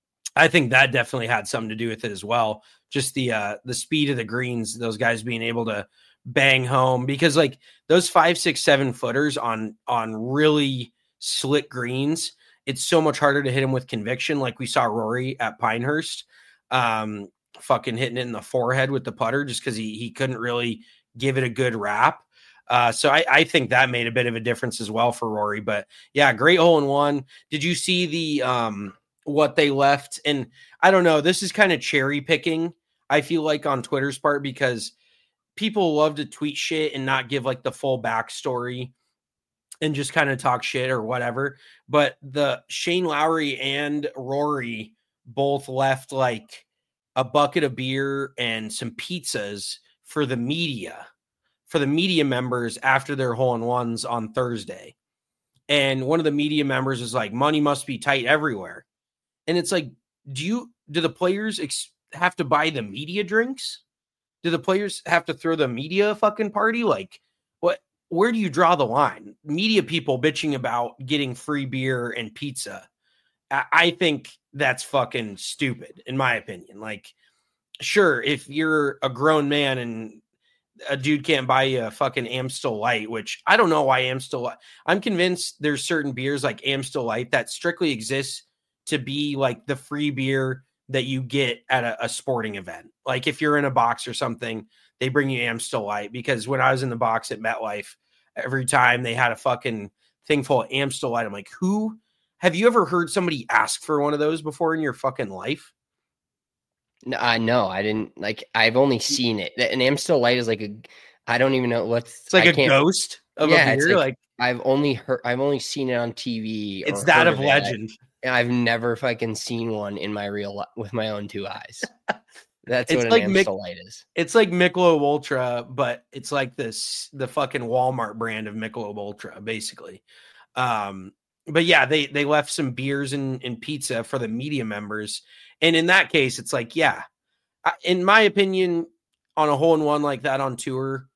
I think that definitely had something to do with it as well. Just the, uh, the speed of the greens, those guys being able to bang home because like those five, six, seven footers on, on really slick greens, it's so much harder to hit them with conviction. Like we saw Rory at Pinehurst, um, fucking hitting it in the forehead with the putter just because he he couldn't really give it a good wrap. Uh, so I, I think that made a bit of a difference as well for Rory. But yeah, great hole in one. Did you see the um what they left? And I don't know, this is kind of cherry picking, I feel like, on Twitter's part because people love to tweet shit and not give like the full backstory and just kind of talk shit or whatever. But the Shane Lowry and Rory both left like a bucket of beer and some pizzas for the media, for the media members after their hole-in-ones on Thursday. And one of the media members is like, money must be tight everywhere. And it's like, do you, do the players ex- have to buy the media drinks? Do the players have to throw the media a fucking party? Like what, where do you draw the line? Media people bitching about getting free beer and pizza. I think that's fucking stupid, in my opinion. Like, sure, if you're a grown man and a dude can't buy you a fucking Amstel Light, which I don't know why Amstel Light. I'm convinced there's certain beers like Amstel Light that strictly exists to be like the free beer that you get at a, a sporting event. Like if you're in a box or something, they bring you Amstel Light. Because when I was in the box at MetLife, every time they had a fucking thing full of Amstel Light, I'm like, who? Have you ever heard somebody ask for one of those before in your fucking life?
No, I know. I didn't like, I've only seen it. An Amstel Light is like a, I don't even know what's
it's like
I
a
can't,
ghost of
yeah,
a beer.
Like,
like
I've only heard, I've only seen it on T V.
It's that of, of legend.
I, I've never fucking seen one in my real life with my own two eyes. That's
it's
what an
like
Amstel
Mick,
Light is.
It's like Michelob Ultra, but it's like this, the fucking Walmart brand of Michelob Ultra, basically. Um, But yeah, they, they left some beers and, and pizza for the media members. And in that case, it's like, yeah, I, in my opinion, on a hole in one like that on tour,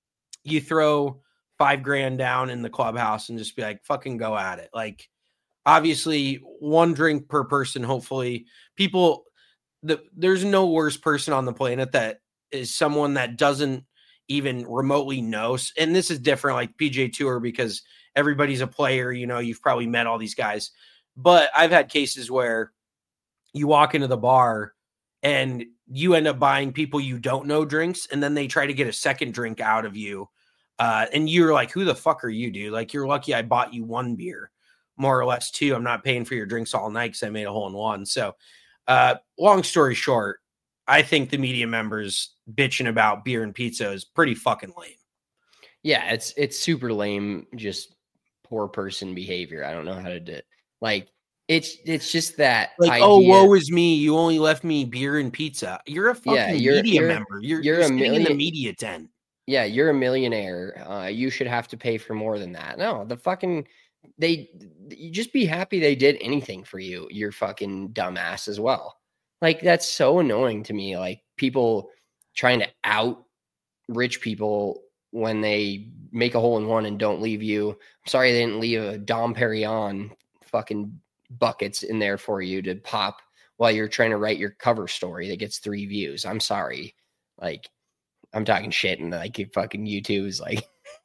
you throw five grand down in the clubhouse and just be like, fucking go at it. Like, obviously, one drink per person. Hopefully, people, the, there's no worse person on the planet that is someone that doesn't even remotely know. And this is different, like P G A Tour, because everybody's a player, you know, you've probably met all these guys, but I've had cases where you walk into the bar and you end up buying people you don't know drinks. And then they try to get a second drink out of you. Uh, and you're like, who the fuck are you, dude? Like, you're lucky I bought you one beer, more or less two. I'm not paying for your drinks all night because I made a hole in one. So uh, long story short, I think the media members bitching about beer and pizza is pretty fucking lame.
Yeah, it's, it's super lame. Just poor person behavior. I don't know how to do it. Like it's it's just that
like
idea.
Oh, woe is me, you only left me beer and pizza. You're a fucking yeah, you're, media
you're,
member. You're,
you're,
you're
a
sitting
million,
in the media tent.
Yeah, you're a millionaire. Uh, you should have to pay for more than that. No, the fucking they you just be happy they did anything for you. You're fucking dumbass as well. Like that's so annoying to me. Like people trying to out rich people when they make a hole in one and don't leave you. I'm sorry they didn't leave a Dom Perignon fucking buckets in there for you to pop while you're trying to write your cover story that gets three views. I'm sorry. Like I'm talking shit, and like fucking YouTube is like,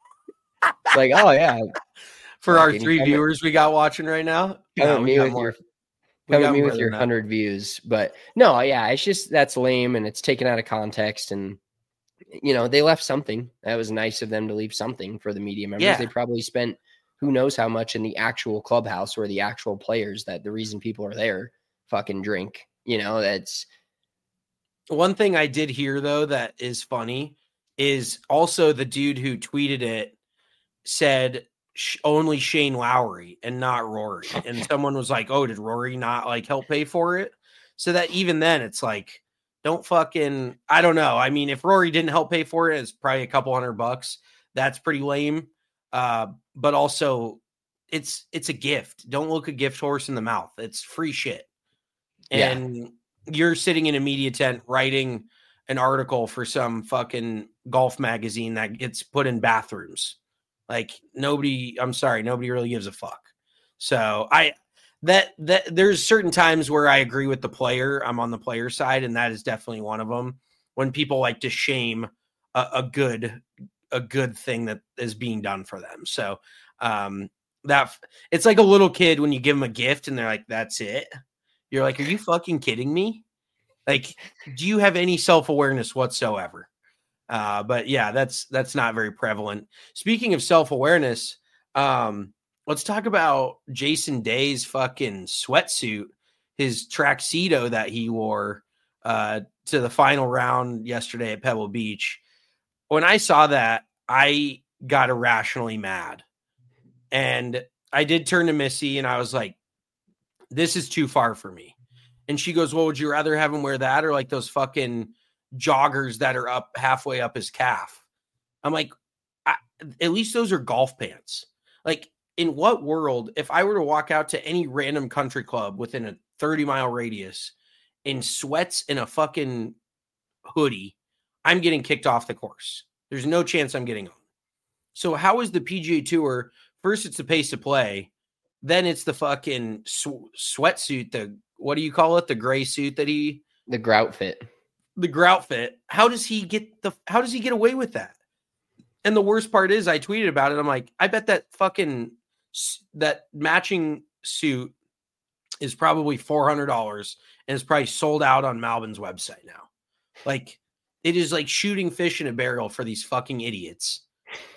like, oh yeah.
For our three viewers we got watching right now,
come at me with your, come at me with your hundred views. But no, yeah, it's just that's lame and it's taken out of context. And you know, they left something. That was nice of them to leave something for the media members.
Yeah.
They probably spent who knows how much in the actual clubhouse where the actual players that the reason people are there fucking drink. You know, that's
one thing I did hear though that is funny is also the dude who tweeted it said only Shane Lowry and not Rory. And someone was like, oh, did Rory not like help pay for it? So that even then it's like, don't fucking, I don't know. I mean, if Rory didn't help pay for it, it's probably a couple hundred bucks. That's pretty lame. Uh, but also it's, it's a gift. Don't look a gift horse in the mouth. It's free shit. And yeah. You're sitting in a media tent writing an article for some fucking golf magazine that gets put in bathrooms. Like nobody, I'm sorry, nobody really gives a fuck. So I, that, that there's certain times where I agree with the player. I'm on the player side. And that is definitely one of them when people like to shame a, a good, a good thing that is being done for them. So um, that it's like a little kid when you give them a gift and they're like, that's it. You're like, are you fucking kidding me? Like, do you have any self-awareness whatsoever? Uh, but yeah, that's that's not very prevalent. Speaking of self-awareness, um, let's talk about Jason Day's fucking sweatsuit, his tracksuito that he wore uh, to the final round yesterday at Pebble Beach. When I saw that, I got irrationally mad. And I did turn to Missy and I was like, this is too far for me. And she goes, well, would you rather have him wear that or like those fucking joggers that are up halfway up his calf? I'm like, I, at least those are golf pants. Like, in what world, if I were to walk out to any random country club within a thirty mile radius in sweats and a fucking hoodie, I'm getting kicked off the course. There's no chance I'm getting on. So how is the P G A Tour? First, it's the pace to play. Then it's the fucking sw- sweatsuit. The, what do you call it? The gray suit that he,
the grout fit,
the grout fit. How does he get the, how does he get away with that? And the worst part is I tweeted about it. I'm like, I bet that fucking, that matching suit is probably four hundred dollars and it's probably sold out on Malbon's website now. Like it is like shooting fish in a barrel for these fucking idiots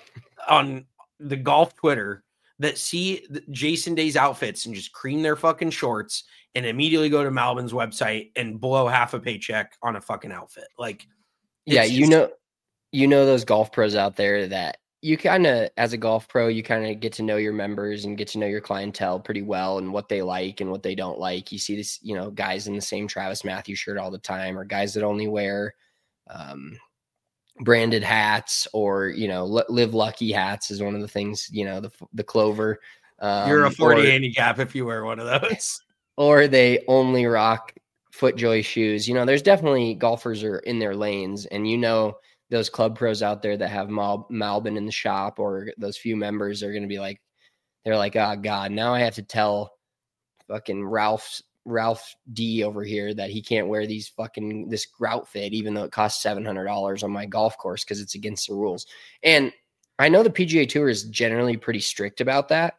on the golf Twitter that see Jason Day's outfits and just cream their fucking shorts and immediately go to Malbon's website and blow half a paycheck on a fucking outfit. Like,
yeah, you just, know, you know, those golf pros out there that you kind of, as a golf pro, you kind of get to know your members and get to know your clientele pretty well and what they like and what they don't like. You see this, you know, guys in the same Travis Matthews shirt all the time, or guys that only wear, um, branded hats, or, you know, Live Lucky hats is one of the things, you know, the the Clover. Um,
You're a forty
or,
handicap if you wear one of those.
Or they only rock FootJoy shoes. You know, there's definitely golfers are in their lanes, and you know those club pros out there that have Mal- Malbon in the shop, or those few members are going to be like, they're like, oh God, now I have to tell fucking Ralph's Ralph D over here that he can't wear these fucking this grout fit, even though it costs seven hundred dollars on my golf course because it's against the rules. And I know the P G A Tour is generally pretty strict about that.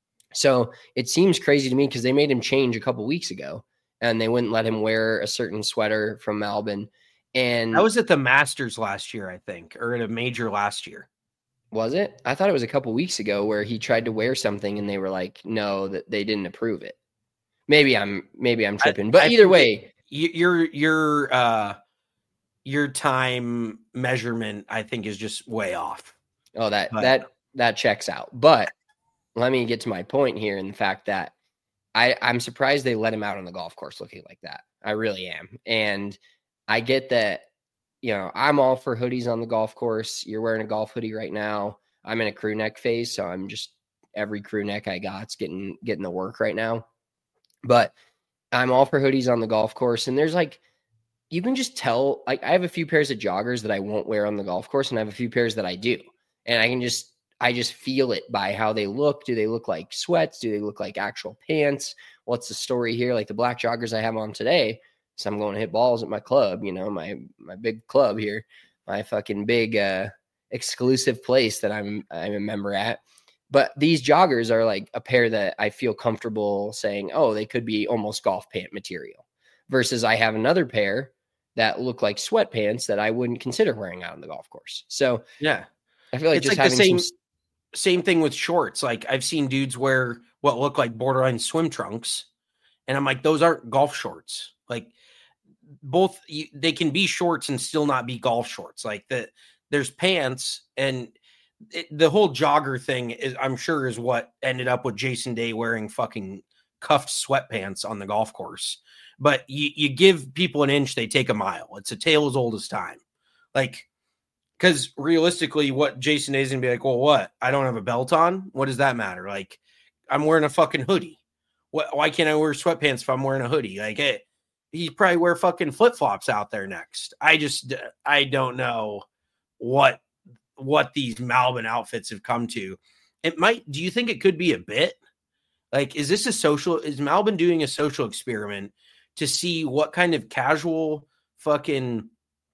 So it seems crazy to me because they made him change a couple weeks ago and they wouldn't let him wear a certain sweater from Malbon. And
that was at the Masters last year, I think, or at a major last year.
Was it? I thought it was a couple weeks ago where he tried to wear something and they were like, no, that they didn't approve it. Maybe I'm maybe I'm tripping, but I, either way,
your your uh your time measurement, I think, is just way off.
Oh, that but. that that checks out. But let me get to my point here in the fact that I I'm surprised they let him out on the golf course looking like that. I really am, and I get that. You know, I'm all for hoodies on the golf course. You're wearing a golf hoodie right now. I'm in a crew neck phase, so I'm just every crew neck I got's getting getting the work right now. But I'm all for hoodies on the golf course. And there's like, you can just tell, like I have a few pairs of joggers that I won't wear on the golf course. And I have a few pairs that I do. And I can just, I just feel it by how they look. Do they look like sweats? Do they look like actual pants? What's the story here? Like the black joggers I have on today. So I'm going to hit balls at my club, you know, my, my big club here. my fucking big uh, exclusive place that I'm I'm a member at. But these joggers are like a pair that I feel comfortable saying, oh, they could be almost golf pant material. Versus I have another pair that look like sweatpants that I wouldn't consider wearing out on the golf course. So
yeah,
I feel like
it's
just
like the
having
same
some...
same thing with shorts. Like I've seen dudes wear what look like borderline swim trunks, and I'm like, those aren't golf shorts. Like both, they can be shorts and still not be golf shorts. Like that, there's pants, and it, the whole jogger thing is, I'm sure, is what ended up with Jason Day wearing fucking cuffed sweatpants on the golf course. But you, you give people an inch, they take a mile. It's a tale as old as time. Like, because realistically, what Jason Day is going to be like, well, what? I don't have a belt on? What does that matter? Like, I'm wearing a fucking hoodie. What? Why can't I wear sweatpants if I'm wearing a hoodie? Like, hey, he'd probably wear fucking flip-flops out there next. I just, I don't know what, what these Malbon outfits have come to. It might, do you think it could be a bit? Like, is this a social, is Malbon doing a social experiment to see what kind of casual fucking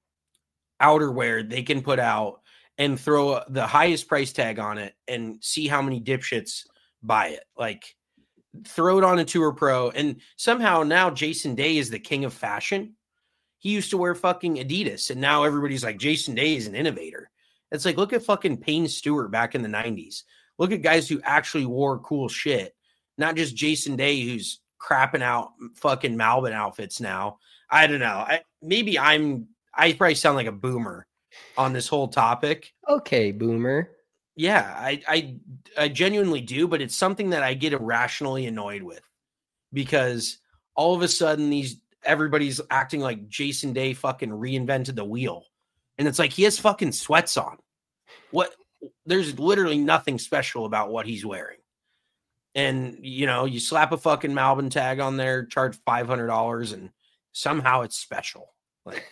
outerwear they can put out and throw the highest price tag on it and see how many dipshits buy it? Like, throw it on a Tour Pro, and somehow now Jason Day is the king of fashion. He used to wear fucking Adidas, and now everybody's like, Jason Day is an innovator. It's like, look at fucking Payne Stewart back in the nineties. Look at guys who actually wore cool shit, not just Jason Day who's crapping out fucking Malbon outfits now. I don't know. I, maybe I'm, I probably sound like a boomer on this whole topic.
Okay, boomer.
Yeah, I, I, I genuinely do, but it's something that I get irrationally annoyed with, because all of a sudden these, everybody's acting like Jason Day fucking reinvented the wheel. And it's like, he has fucking sweats on. What? There's literally nothing special about what he's wearing. And, you know, you slap a fucking Malbon tag on there, charge five hundred dollars, and somehow it's special. Like,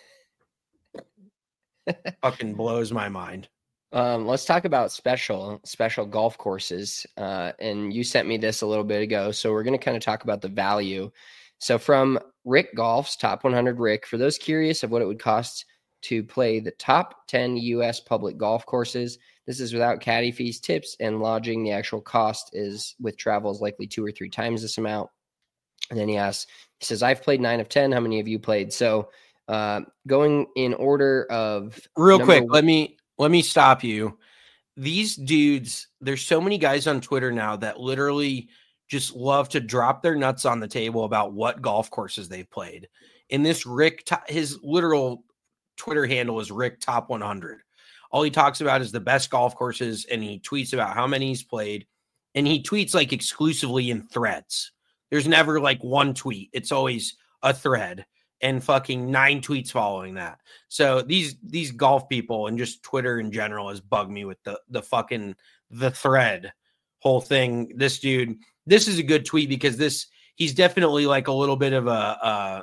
fucking blows my mind.
Um, let's talk about special, special golf courses. Uh, and you sent me this a little bit ago. So we're going to kind of talk about the value. So from Rick Golf's Top one hundred Rick, for those curious of what it would cost to play the top ten U S public golf courses, this is without caddy fees, tips, and lodging. The actual cost is with travel is likely two or three times this amount. And then he asks, he says, I've played nine of ten. How many have you played? So uh, going in order of
real quick,
one-
let me, let me stop you. These dudes, there's so many guys on Twitter now that literally just love to drop their nuts on the table about what golf courses they've played. In this Rick, his literal Twitter handle is Rick Top one hundred. All he talks about is the best golf courses, and he tweets about how many he's played, and he tweets like exclusively in threads. There's never like one tweet. It's always a thread and fucking nine tweets following that. So these, these golf people and just Twitter in general has bugged me with the, the fucking, the thread whole thing. This dude, this is a good tweet because this, he's definitely like a little bit of a, a,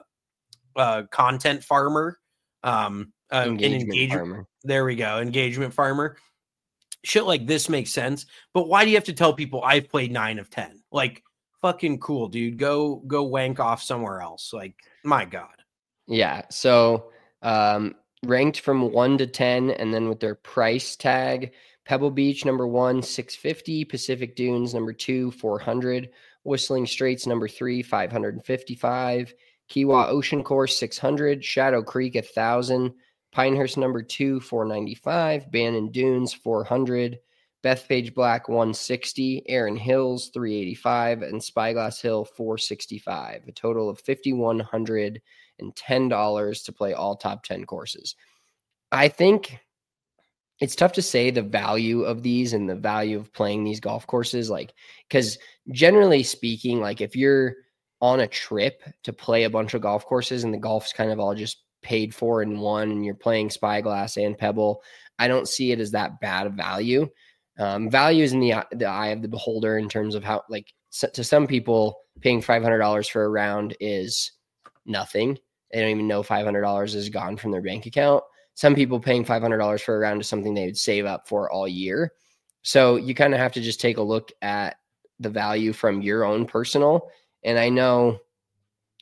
a content farmer. Um, uh, engagement, an engagement farmer. There we go. Engagement farmer. Shit like this makes sense. But why do you have to tell people I've played nine of ten? Like, fucking cool, dude. Go, go wank off somewhere else. Like, my God.
Yeah. So, um, ranked from one to ten, and then with their price tag, Pebble Beach, number one, six fifty, Pacific Dunes, number two, four hundred, Whistling Straits, number three, five fifty-five, Kewah Ocean Course, six hundred, Shadow Creek, one thousand, Pinehurst, number two, four ninety-five, Bannon Dunes, four hundred, Bethpage Black, one sixty, Erin Hills, three eighty-five, and Spyglass Hill, four sixty-five, a total of five thousand one hundred ten dollars to play all top ten courses. I think it's tough to say the value of these and the value of playing these golf courses, like, because generally speaking, like if you're on a trip to play a bunch of golf courses and the golf's kind of all just paid for in one and you're playing Spyglass and Pebble, I don't see it as that bad of value. Um, value is in the, the eye of the beholder in terms of how, like, so, to some people, paying five hundred dollars for a round is nothing. They don't even know five hundred dollars is gone from their bank account. Some people paying five hundred dollars for a round is something they would save up for all year. So you kind of have to just take a look at the value from your own personal. And I know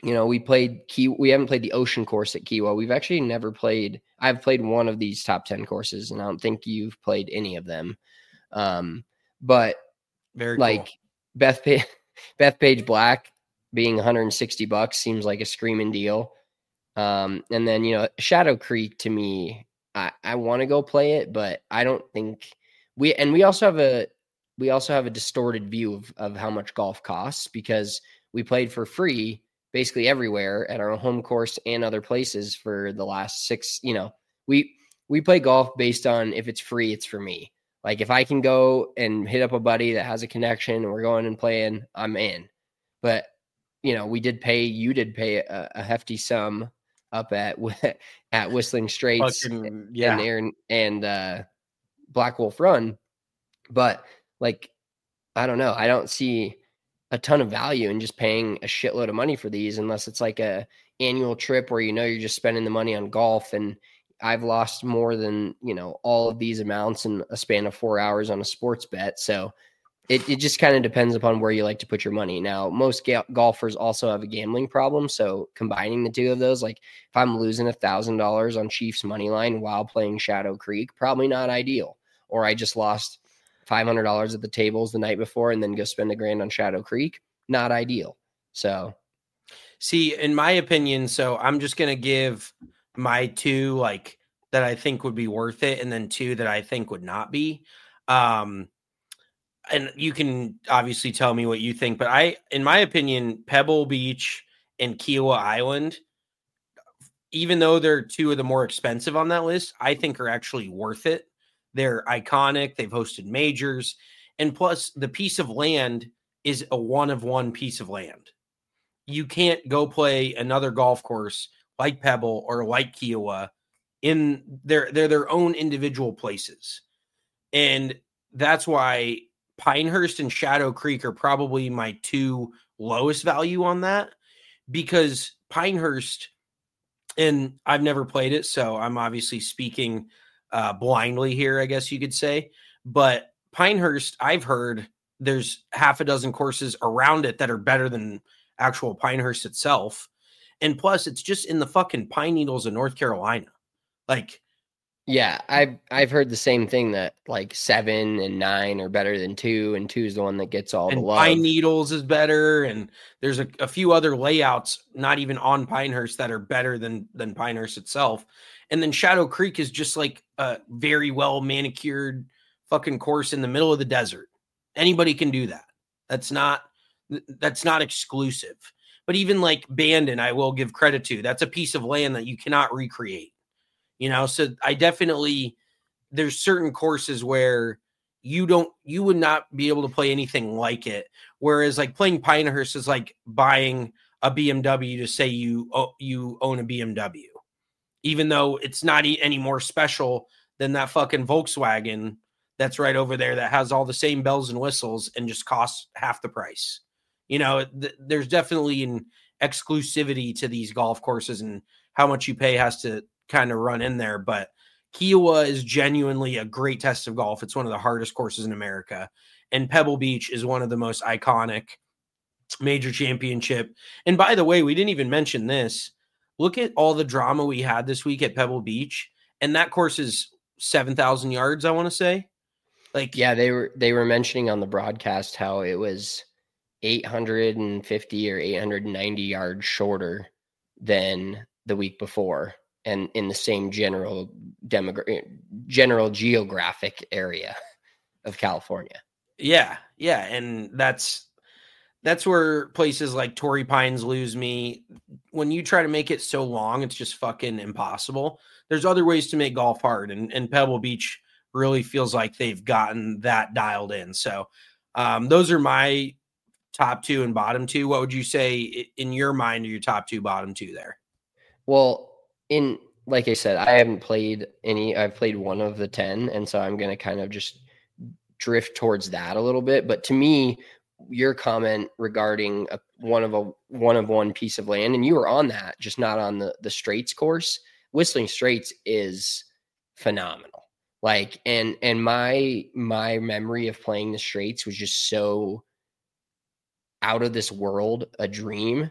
you know, we played Key. We haven't played the Ocean course at Kiawah. We've actually never played. I've played one of these top ten courses, and I don't think you've played any of them. Um, but
Very
like
cool.
Beth pa- Bethpage Black being one hundred sixty bucks seems like a screaming deal. Um, and then, you know, Shadow Creek to me, I, I want to go play it, but I don't think we, and we also have a, we also have a distorted view of, of how much golf costs because we played for free basically everywhere at our home course and other places for the last six, you know, we, we play golf based on if it's free, it's for me. Like if I can go and hit up a buddy that has a connection and we're going and playing, I'm in. But, you know, we did pay, you did pay a, a hefty sum up at at Whistling Straits
Fucking, yeah.
and Aaron and uh, Black Wolf Run, but like I don't know, I don't see a ton of value in just paying a shitload of money for these unless it's like a annual trip where you know you're just spending the money on golf. And I've lost more than you know all of these amounts in a span of four hours on a sports bet, so. It it just kind of depends upon where you like to put your money. Now, most ga- golfers also have a gambling problem. So combining the two of those, like if I'm losing one thousand dollars on Chiefs money line while playing Shadow Creek, probably not ideal. Or I just lost five hundred dollars at the tables the night before and then go spend a grand on Shadow Creek, not ideal. So.
See, in my opinion, so I'm just going to give my two like that I think would be worth it and then two that I think would not be. Um And you can obviously tell me what you think, but I, in my opinion, Pebble Beach and Kiawah Island, even though they're two of the more expensive on that list, I think are actually worth it. They're iconic. They've hosted majors. And plus, the piece of land is a one of one piece of land. You can't go play another golf course like Pebble or like Kiawah in their, they're their own individual places. And that's why Pinehurst and Shadow Creek are probably my two lowest value on that because Pinehurst, and I've never played it, so I'm obviously speaking uh, blindly here, I guess you could say. But Pinehurst, I've heard there's half a dozen courses around it that are better than actual Pinehurst itself. And plus, it's just in the fucking Pine Needles of North Carolina. Like,
Yeah, I've I've heard the same thing that like seven and nine are better than two, and two is the one that gets all
and
the love.
Pine Needles is better, and there's a, a few other layouts, not even on Pinehurst, that are better than than Pinehurst itself. And then Shadow Creek is just like a very well manicured fucking course in the middle of the desert. Anybody can do that. That's not that's not exclusive. But even like Bandon, I will give credit to. That's a piece of land that you cannot recreate. You know, so I definitely, there's certain courses where you don't, you would not be able to play anything like it. Whereas like playing Pinehurst is like buying a B M W to say you, oh, you own a B M W, even though it's not any more special than that fucking Volkswagen that's right over there that has all the same bells and whistles and just costs half the price. You know, th- there's definitely an exclusivity to these golf courses, and how much you pay has to kind of run in there. But Kiawah is genuinely a great test of golf. It's one of the hardest courses in America. And Pebble Beach is one of the most iconic major championship. And by the way, we didn't even mention this. Look at all the drama we had this week at Pebble Beach. And that course is seven thousand yards, I want to say. Like,
yeah, they were, they were mentioning on the broadcast how it was eight hundred fifty or eight hundred ninety yards shorter than the week before, and in the same general demogra- general geographic area of California.
Yeah, yeah, and that's that's where places like Torrey Pines lose me. When you try to make it so long, it's just fucking impossible. There's other ways to make golf hard, and, and Pebble Beach really feels like they've gotten that dialed in. So um, those are my top two and bottom two. What would you say in your mind are your top two, bottom two there?
Well, in like I said, I haven't played any. I've played one of the ten, and so I'm going to kind of just drift towards that a little bit. But to me, your comment regarding a, one of a one of one piece of land, and you were on that, just not on the the Straits course. Whistling Straits is phenomenal. Like, and and my my memory of playing the Straits was just so out of this world, a dream.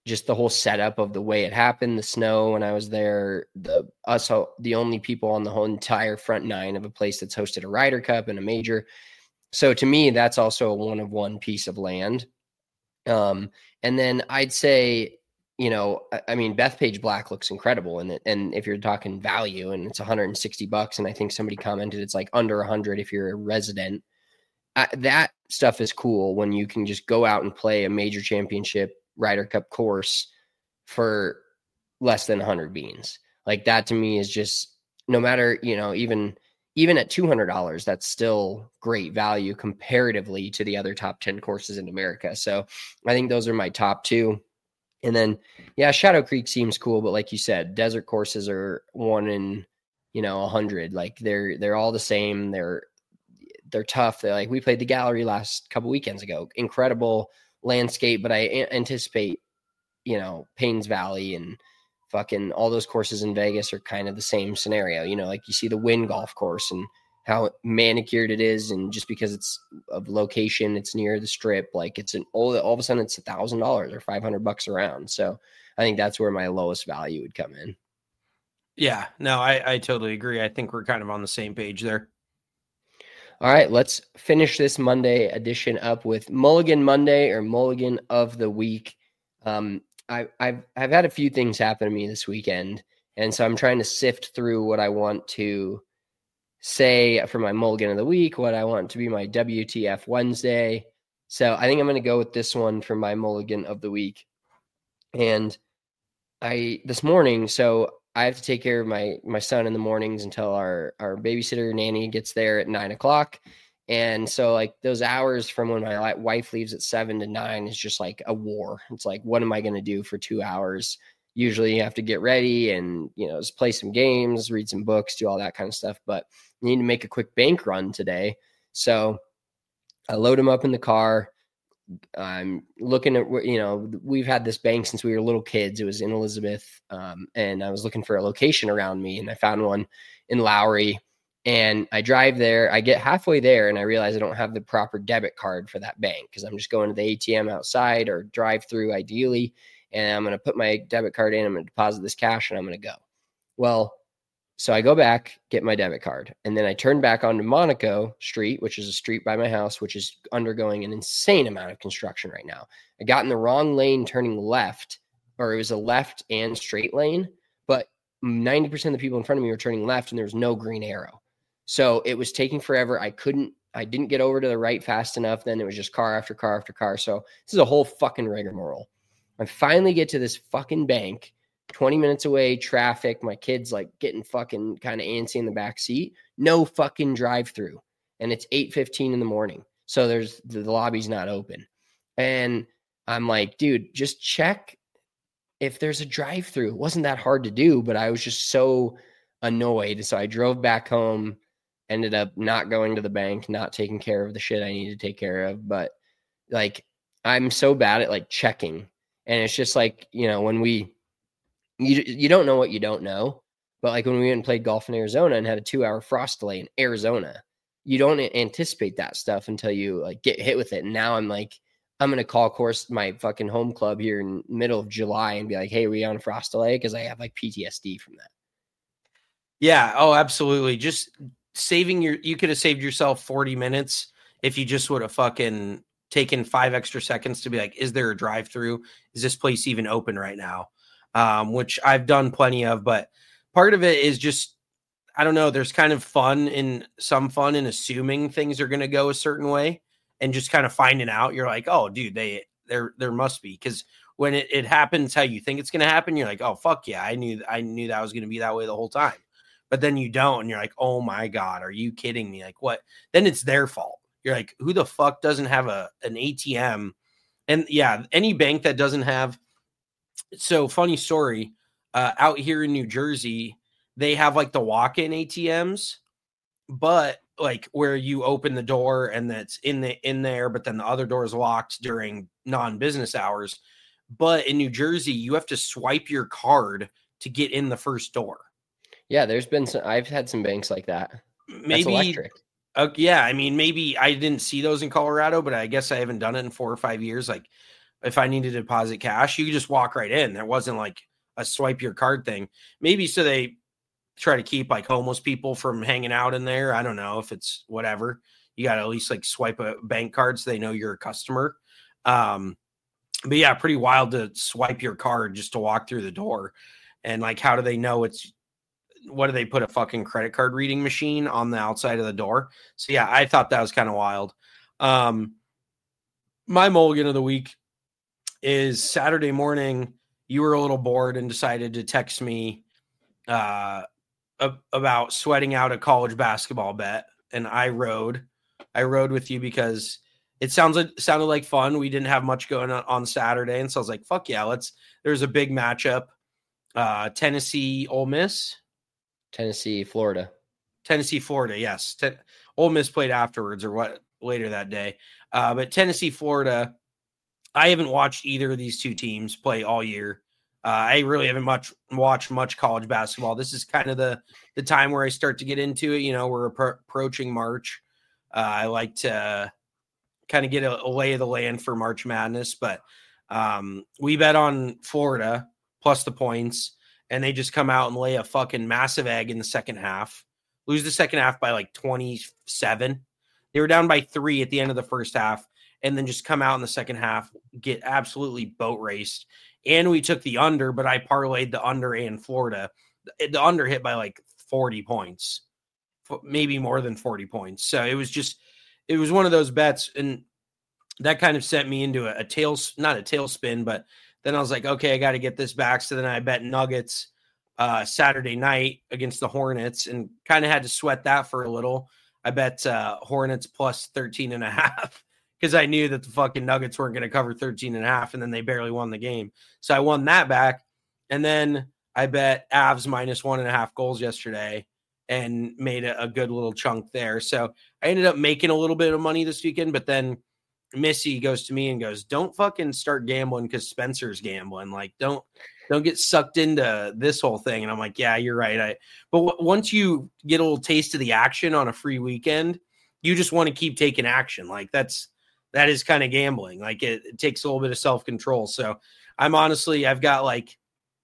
just the whole setup of the way it happened, the snow when I was there, the us the only people on the whole entire front nine of a place that's hosted a Ryder Cup and a major. So to me, that's also a one of one piece of land. Um, and then I'd say, you know, I, I mean, Bethpage Black looks incredible, and and if you're talking value, and it's one hundred sixty bucks, and I think somebody commented it's like under one hundred if you're a resident. I, that stuff is cool when you can just go out and play a major championship Ryder Cup course for less than one hundred beans. Like that to me is just, no matter, you know, even even at two hundred dollars, that's still great value comparatively to the other top ten courses in America. So I think those are my top two. And then, yeah, Shadow Creek seems cool, but like you said, desert courses are one in, you know, a hundred. Like they're they're all the same. They're they're tough. They're like, we played the Gallery last couple weekends ago. Incredible landscape, but I a- anticipate, you know, Paynes Valley and fucking all those courses in Vegas are kind of the same scenario. You know, like you see the Wynn Golf Course and how manicured it is, and just because it's of location, it's near the Strip. Like it's an all, all of a sudden it's a thousand dollars or five hundred bucks around. So I think that's where my lowest value would come in.
Yeah, no, I, I totally agree. I think we're kind of on the same page there.
All right, let's finish this Monday edition up with Mulligan Monday or Mulligan of the Week. Um, I, I've I've had a few things happen to me this weekend, and so I'm trying to sift through what I want to say for my Mulligan of the Week, what I want to be my W T F Wednesday. So I think I'm going to go with this one for my Mulligan of the Week. And I this morning, so I have to take care of my my son in the mornings until our our babysitter nanny gets there at nine o'clock. And so like those hours from when my wife leaves at seven to nine is just like a war. It's like, what am I going to do for two hours? Usually you have to get ready and, you know, just play some games, read some books, do all that kind of stuff. But you need to make a quick bank run today. So I load him up in the car. I'm looking at, you know, we've had this bank since we were little kids. It was in Elizabeth. Um, and I was looking for a location around me, and I found one in Lowry. And I drive there, I get halfway there, and I realize I don't have the proper debit card for that bank because I'm just going to the A T M outside or drive through ideally. And I'm going to put my debit card in, I'm going to deposit this cash, and I'm going to go. Well, so I go back, get my debit card, and then I turn back onto Monaco Street, which is a street by my house, which is undergoing an insane amount of construction right now. I got in the wrong lane turning left, or it was a left and straight lane, but ninety percent of the people in front of me were turning left, and there was no green arrow. So it was taking forever. I couldn't, I didn't get over to the right fast enough. Then it was just car after car after car. So this is a whole fucking rigmarole. I finally get to this fucking bank, twenty minutes away, traffic. My kid's like getting fucking kind of antsy in the back seat. No fucking drive through. And it's eight fifteen in the morning. So there's the, the lobby's not open. And I'm like, dude, just check if there's a drive through. It wasn't that hard to do, but I was just so annoyed. So I drove back home. Ended up not going to the bank, not taking care of the shit I need to take care of. But like, I'm so bad at like checking. And it's just like, you know, when we, you, you don't know what you don't know. But like when we went and played golf in Arizona and had a two hour frost delay in Arizona, you don't anticipate that stuff until you like get hit with it. And now I'm like, I'm going to call course my fucking home club here in middle of July and be like, hey, are we on a frost delay? Cause I have like P T S D from that.
Yeah. Oh, absolutely. Just saving your, you could have saved yourself forty minutes if you just would have fucking taken five extra seconds to be like, is there a drive through? Is this place even open right now? Um, which I've done plenty of, but part of it is just, I don't know, there's kind of fun in some fun in assuming things are going to go a certain way and just kind of finding out. You're like, oh dude, they, there, there must be. Cause when it, it happens how you think it's going to happen, you're like, oh fuck yeah. I knew, I knew that was going to be that way the whole time. But then you don't, and you're like, oh my God, are you kidding me? Like what? Then it's their fault. You're like, who the fuck doesn't have a an A T M? And yeah, any bank that doesn't have. So funny story, uh, out here in New Jersey, they have like the walk-in A T Ms, but like where you open the door and that's in the in there, but then the other door is locked during non-business hours. But in New Jersey, you have to swipe your card to get in the first door.
Yeah, there's been some, I've had some banks like that.
Maybe
That's electric.
Uh, yeah, I mean, maybe I didn't see those in Colorado, but I guess I haven't done it in four or five years. Like if I needed to deposit cash, you could just walk right in. There wasn't like a swipe your card thing. Maybe so they try to keep like homeless people from hanging out in there. I don't know if it's whatever. You got to at least like swipe a bank card so they know you're a customer. Um, but yeah, pretty wild to swipe your card just to walk through the door. And like, how do they know it's, what do they put a fucking credit card reading machine on the outside of the door? So yeah, I thought that was kind of wild. Um, my mulligan of the week is Saturday morning. You were a little bored and decided to text me uh, about sweating out a college basketball bet. And I rode, I rode with you because it sounds like sounded like fun. We didn't have much going on on Saturday. And so I was like, fuck yeah, let's, there's a big matchup. Uh, Tennessee, Ole Miss,
Tennessee, Florida,
Tennessee, Florida. Yes. Te- Ole Miss played afterwards or what later that day. Uh, but Tennessee, Florida, I haven't watched either of these two teams play all year. Uh, I really haven't much watched much college basketball. This is kind of the, the time where I start to get into it. You know, we're appro- approaching March. Uh, I like to kind of get a, a lay of the land for March Madness, but um, we bet on Florida plus the points, and they just come out and lay a fucking massive egg in the second half, lose the second half by like twenty-seven. They were down by three at the end of the first half, and then just come out in the second half, get absolutely boat raced. And we took the under, but I parlayed the under and Florida. The under hit by like forty points, maybe more than forty points. So it was just, it was one of those bets. And that kind of sent me into a, a tail, not a tailspin, but then I was like, okay, I got to get this back. So then I bet Nuggets uh, Saturday night against the Hornets and kind of had to sweat that for a little. I bet uh, Hornets plus thirteen and a half because I knew that the fucking Nuggets weren't going to cover thirteen and a half, and then they barely won the game. So I won that back. And then I bet Avs minus one and a half goals yesterday and made a, a good little chunk there. So I ended up making a little bit of money this weekend, but then Missy goes to me and goes, don't fucking start gambling because Spencer's gambling. Like, don't don't get sucked into this whole thing. And I'm like, yeah, you're right. I but w- once you get a little taste of the action on a free weekend, you just want to keep taking action. Like that's that is kind of gambling. Like it, it takes a little bit of self-control. So I'm honestly, I've got like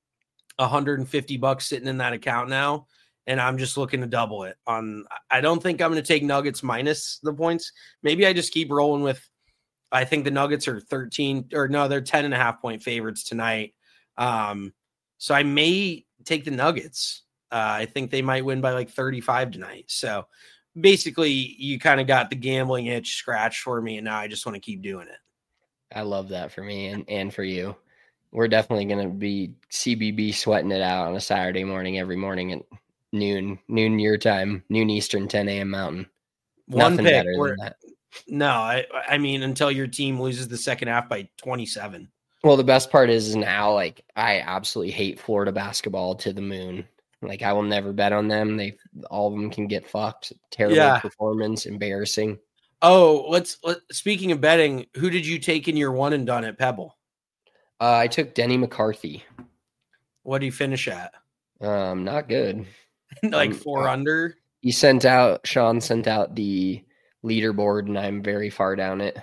one hundred fifty bucks sitting in that account now, and I'm just looking to double it on. I don't think I'm going to take Nuggets minus the points. Maybe I just keep rolling with, I think the Nuggets are thirteen or no, they're ten and a half point favorites tonight. Um, so I may take the Nuggets. Uh, I think they might win by like thirty-five tonight. So basically you kind of got the gambling itch scratched for me. And now I just want to keep doing it.
I love that for me and, and for you. We're definitely going to be C B B sweating it out on a Saturday morning, every morning at noon, noon your time, noon Eastern, ten a.m. Mountain.
One
Nothing
pick
better
where,
than that.
No, I, I mean, until your team loses the second half by twenty-seven.
Well, the best part is now, like, I absolutely hate Florida basketball to the moon. Like, I will never bet on them. They, all of them can get fucked. Terrible
Yeah.
performance, embarrassing.
Oh, let's, let, speaking of betting, who did you take in your one and done at Pebble?
Uh, I took Denny McCarthy.
What do you finish at?
Um, not good.
Like
Um,
four under?
He sent out, Sean sent out the leaderboard, and I'm very far down it.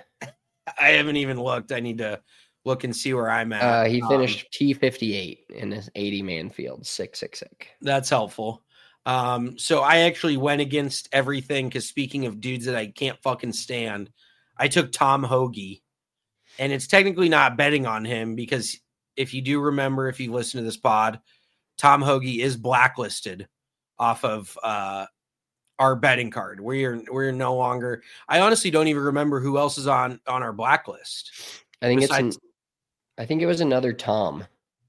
I haven't even looked. I need to look and see where I'm at.
Uh, he
Um,
finished T fifty-eight in his eighty-man field, six six six.
That's helpful. Um, so I actually went against everything because speaking of dudes that I can't fucking stand, I took Tom Hoagie. And it's technically not betting on him because if you do remember, if you listen to this pod, Tom Hoagie is blacklisted off of uh, our betting card. We're we're no longer. I honestly don't even remember who else is on on our blacklist.
I think
Besides-
it's an, I think it was another Tom.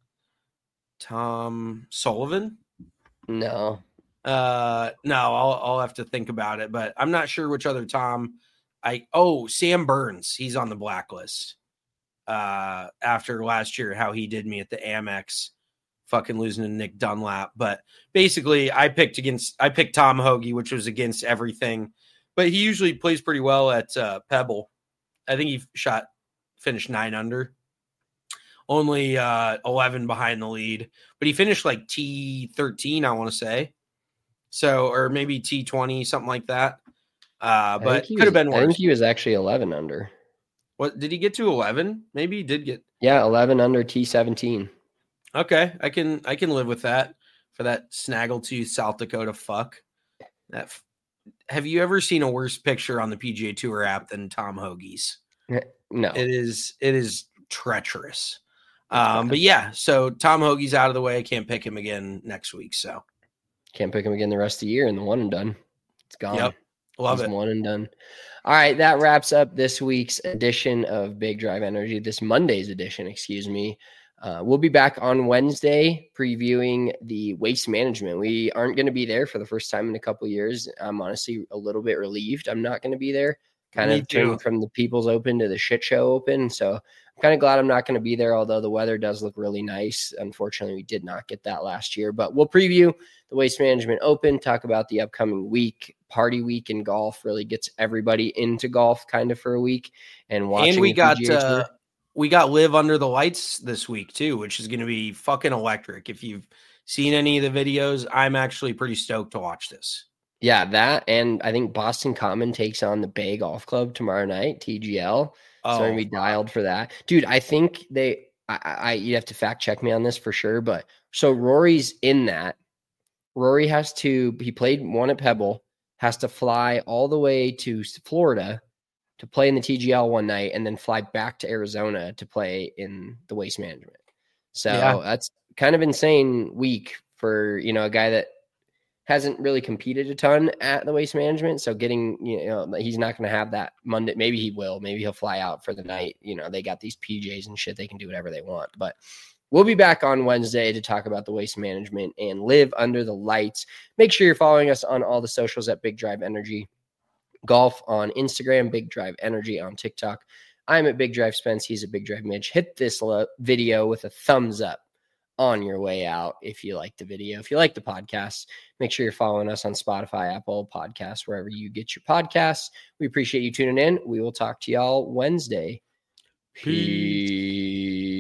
Tom Sullivan?
No.
Uh, no, I'll I'll have to think about it, but I'm not sure which other Tom. I oh Sam Burns, he's on the blacklist. Uh, after last year, how he did me at the Amex, fucking losing to Nick Dunlap. But basically, I picked against I picked Tom Hoagie, which was against everything. But he usually plays pretty well at uh, Pebble. I think he shot finished nine under, only uh, eleven behind the lead. But he finished like T thirteen, I want to say. So, or maybe T twenty, something like that. Uh,
I
but
think he
could have
was-
been
I
worse.
think he was actually eleven under.
What did he get to eleven? Maybe he did get.
Yeah, eleven under T seventeen.
Okay, I can I can live with that for that snaggletooth South Dakota fuck. That. F- Have you ever seen a worse picture on the P G A Tour app than Tom Hoagie's?
No,
It is it is treacherous. Um, but yeah, so Tom Hoagie's out of the way. I can't pick him again next week. So
can't pick him again the rest of the year in the one and done. It's gone.
Yep. Love
He's
it.
One and done. All right, that wraps up this week's edition of Big Drive Energy, this Monday's edition, excuse me. Uh, we'll be back on Wednesday previewing the waste management. We aren't going to be there for the first time in a couple of years. I'm honestly a little bit relieved I'm not going to be there. Kind
Me
of
too.
turning from the People's Open to the shit show open. So I'm kind of glad I'm not going to be there, although the weather does look really nice. Unfortunately, we did not get that last year, but we'll preview the Waste Management Open, talk about the upcoming week. Party week in golf really gets everybody into golf kind of for a week. And watching
And we
the
got
P G A
uh,
Tour.
we got Live Under the Lights this week too, which is going to be fucking electric. If you've seen any of the videos, I'm actually pretty stoked to watch this.
Yeah, that, and I think Boston Common takes on the Bay Golf Club tomorrow night, T G L.
Oh,
So I'm gonna be dialed for that, dude. I think they, I, I, you have to fact check me on this for sure, but so Rory's in that. Rory has to, he played one at Pebble, has to fly all the way to Florida to play in the T G L one night, and then fly back to Arizona to play in the Waste Management. So
Yeah.
that's kind of insane week for, you know, a guy that hasn't really competed a ton at the Waste Management. So getting, you know, he's not going to have that Monday. Maybe he will. Maybe he'll fly out for the night. You know, they got these P Js and shit. They can do whatever they want. But we'll be back on Wednesday to talk about the Waste Management and Live Under the Lights. Make sure you're following us on all the socials at Big Drive Energy. Golf on Instagram, Big Drive Energy on TikTok. I'm at Big Drive Spence. He's at Big Drive Mitch. Hit this lo- video with a thumbs up on your way out if you like the video. If you like the podcast, make sure you're following us on Spotify, Apple Podcasts, wherever you get your podcasts. We appreciate you tuning in. We will talk to y'all Wednesday. Peace.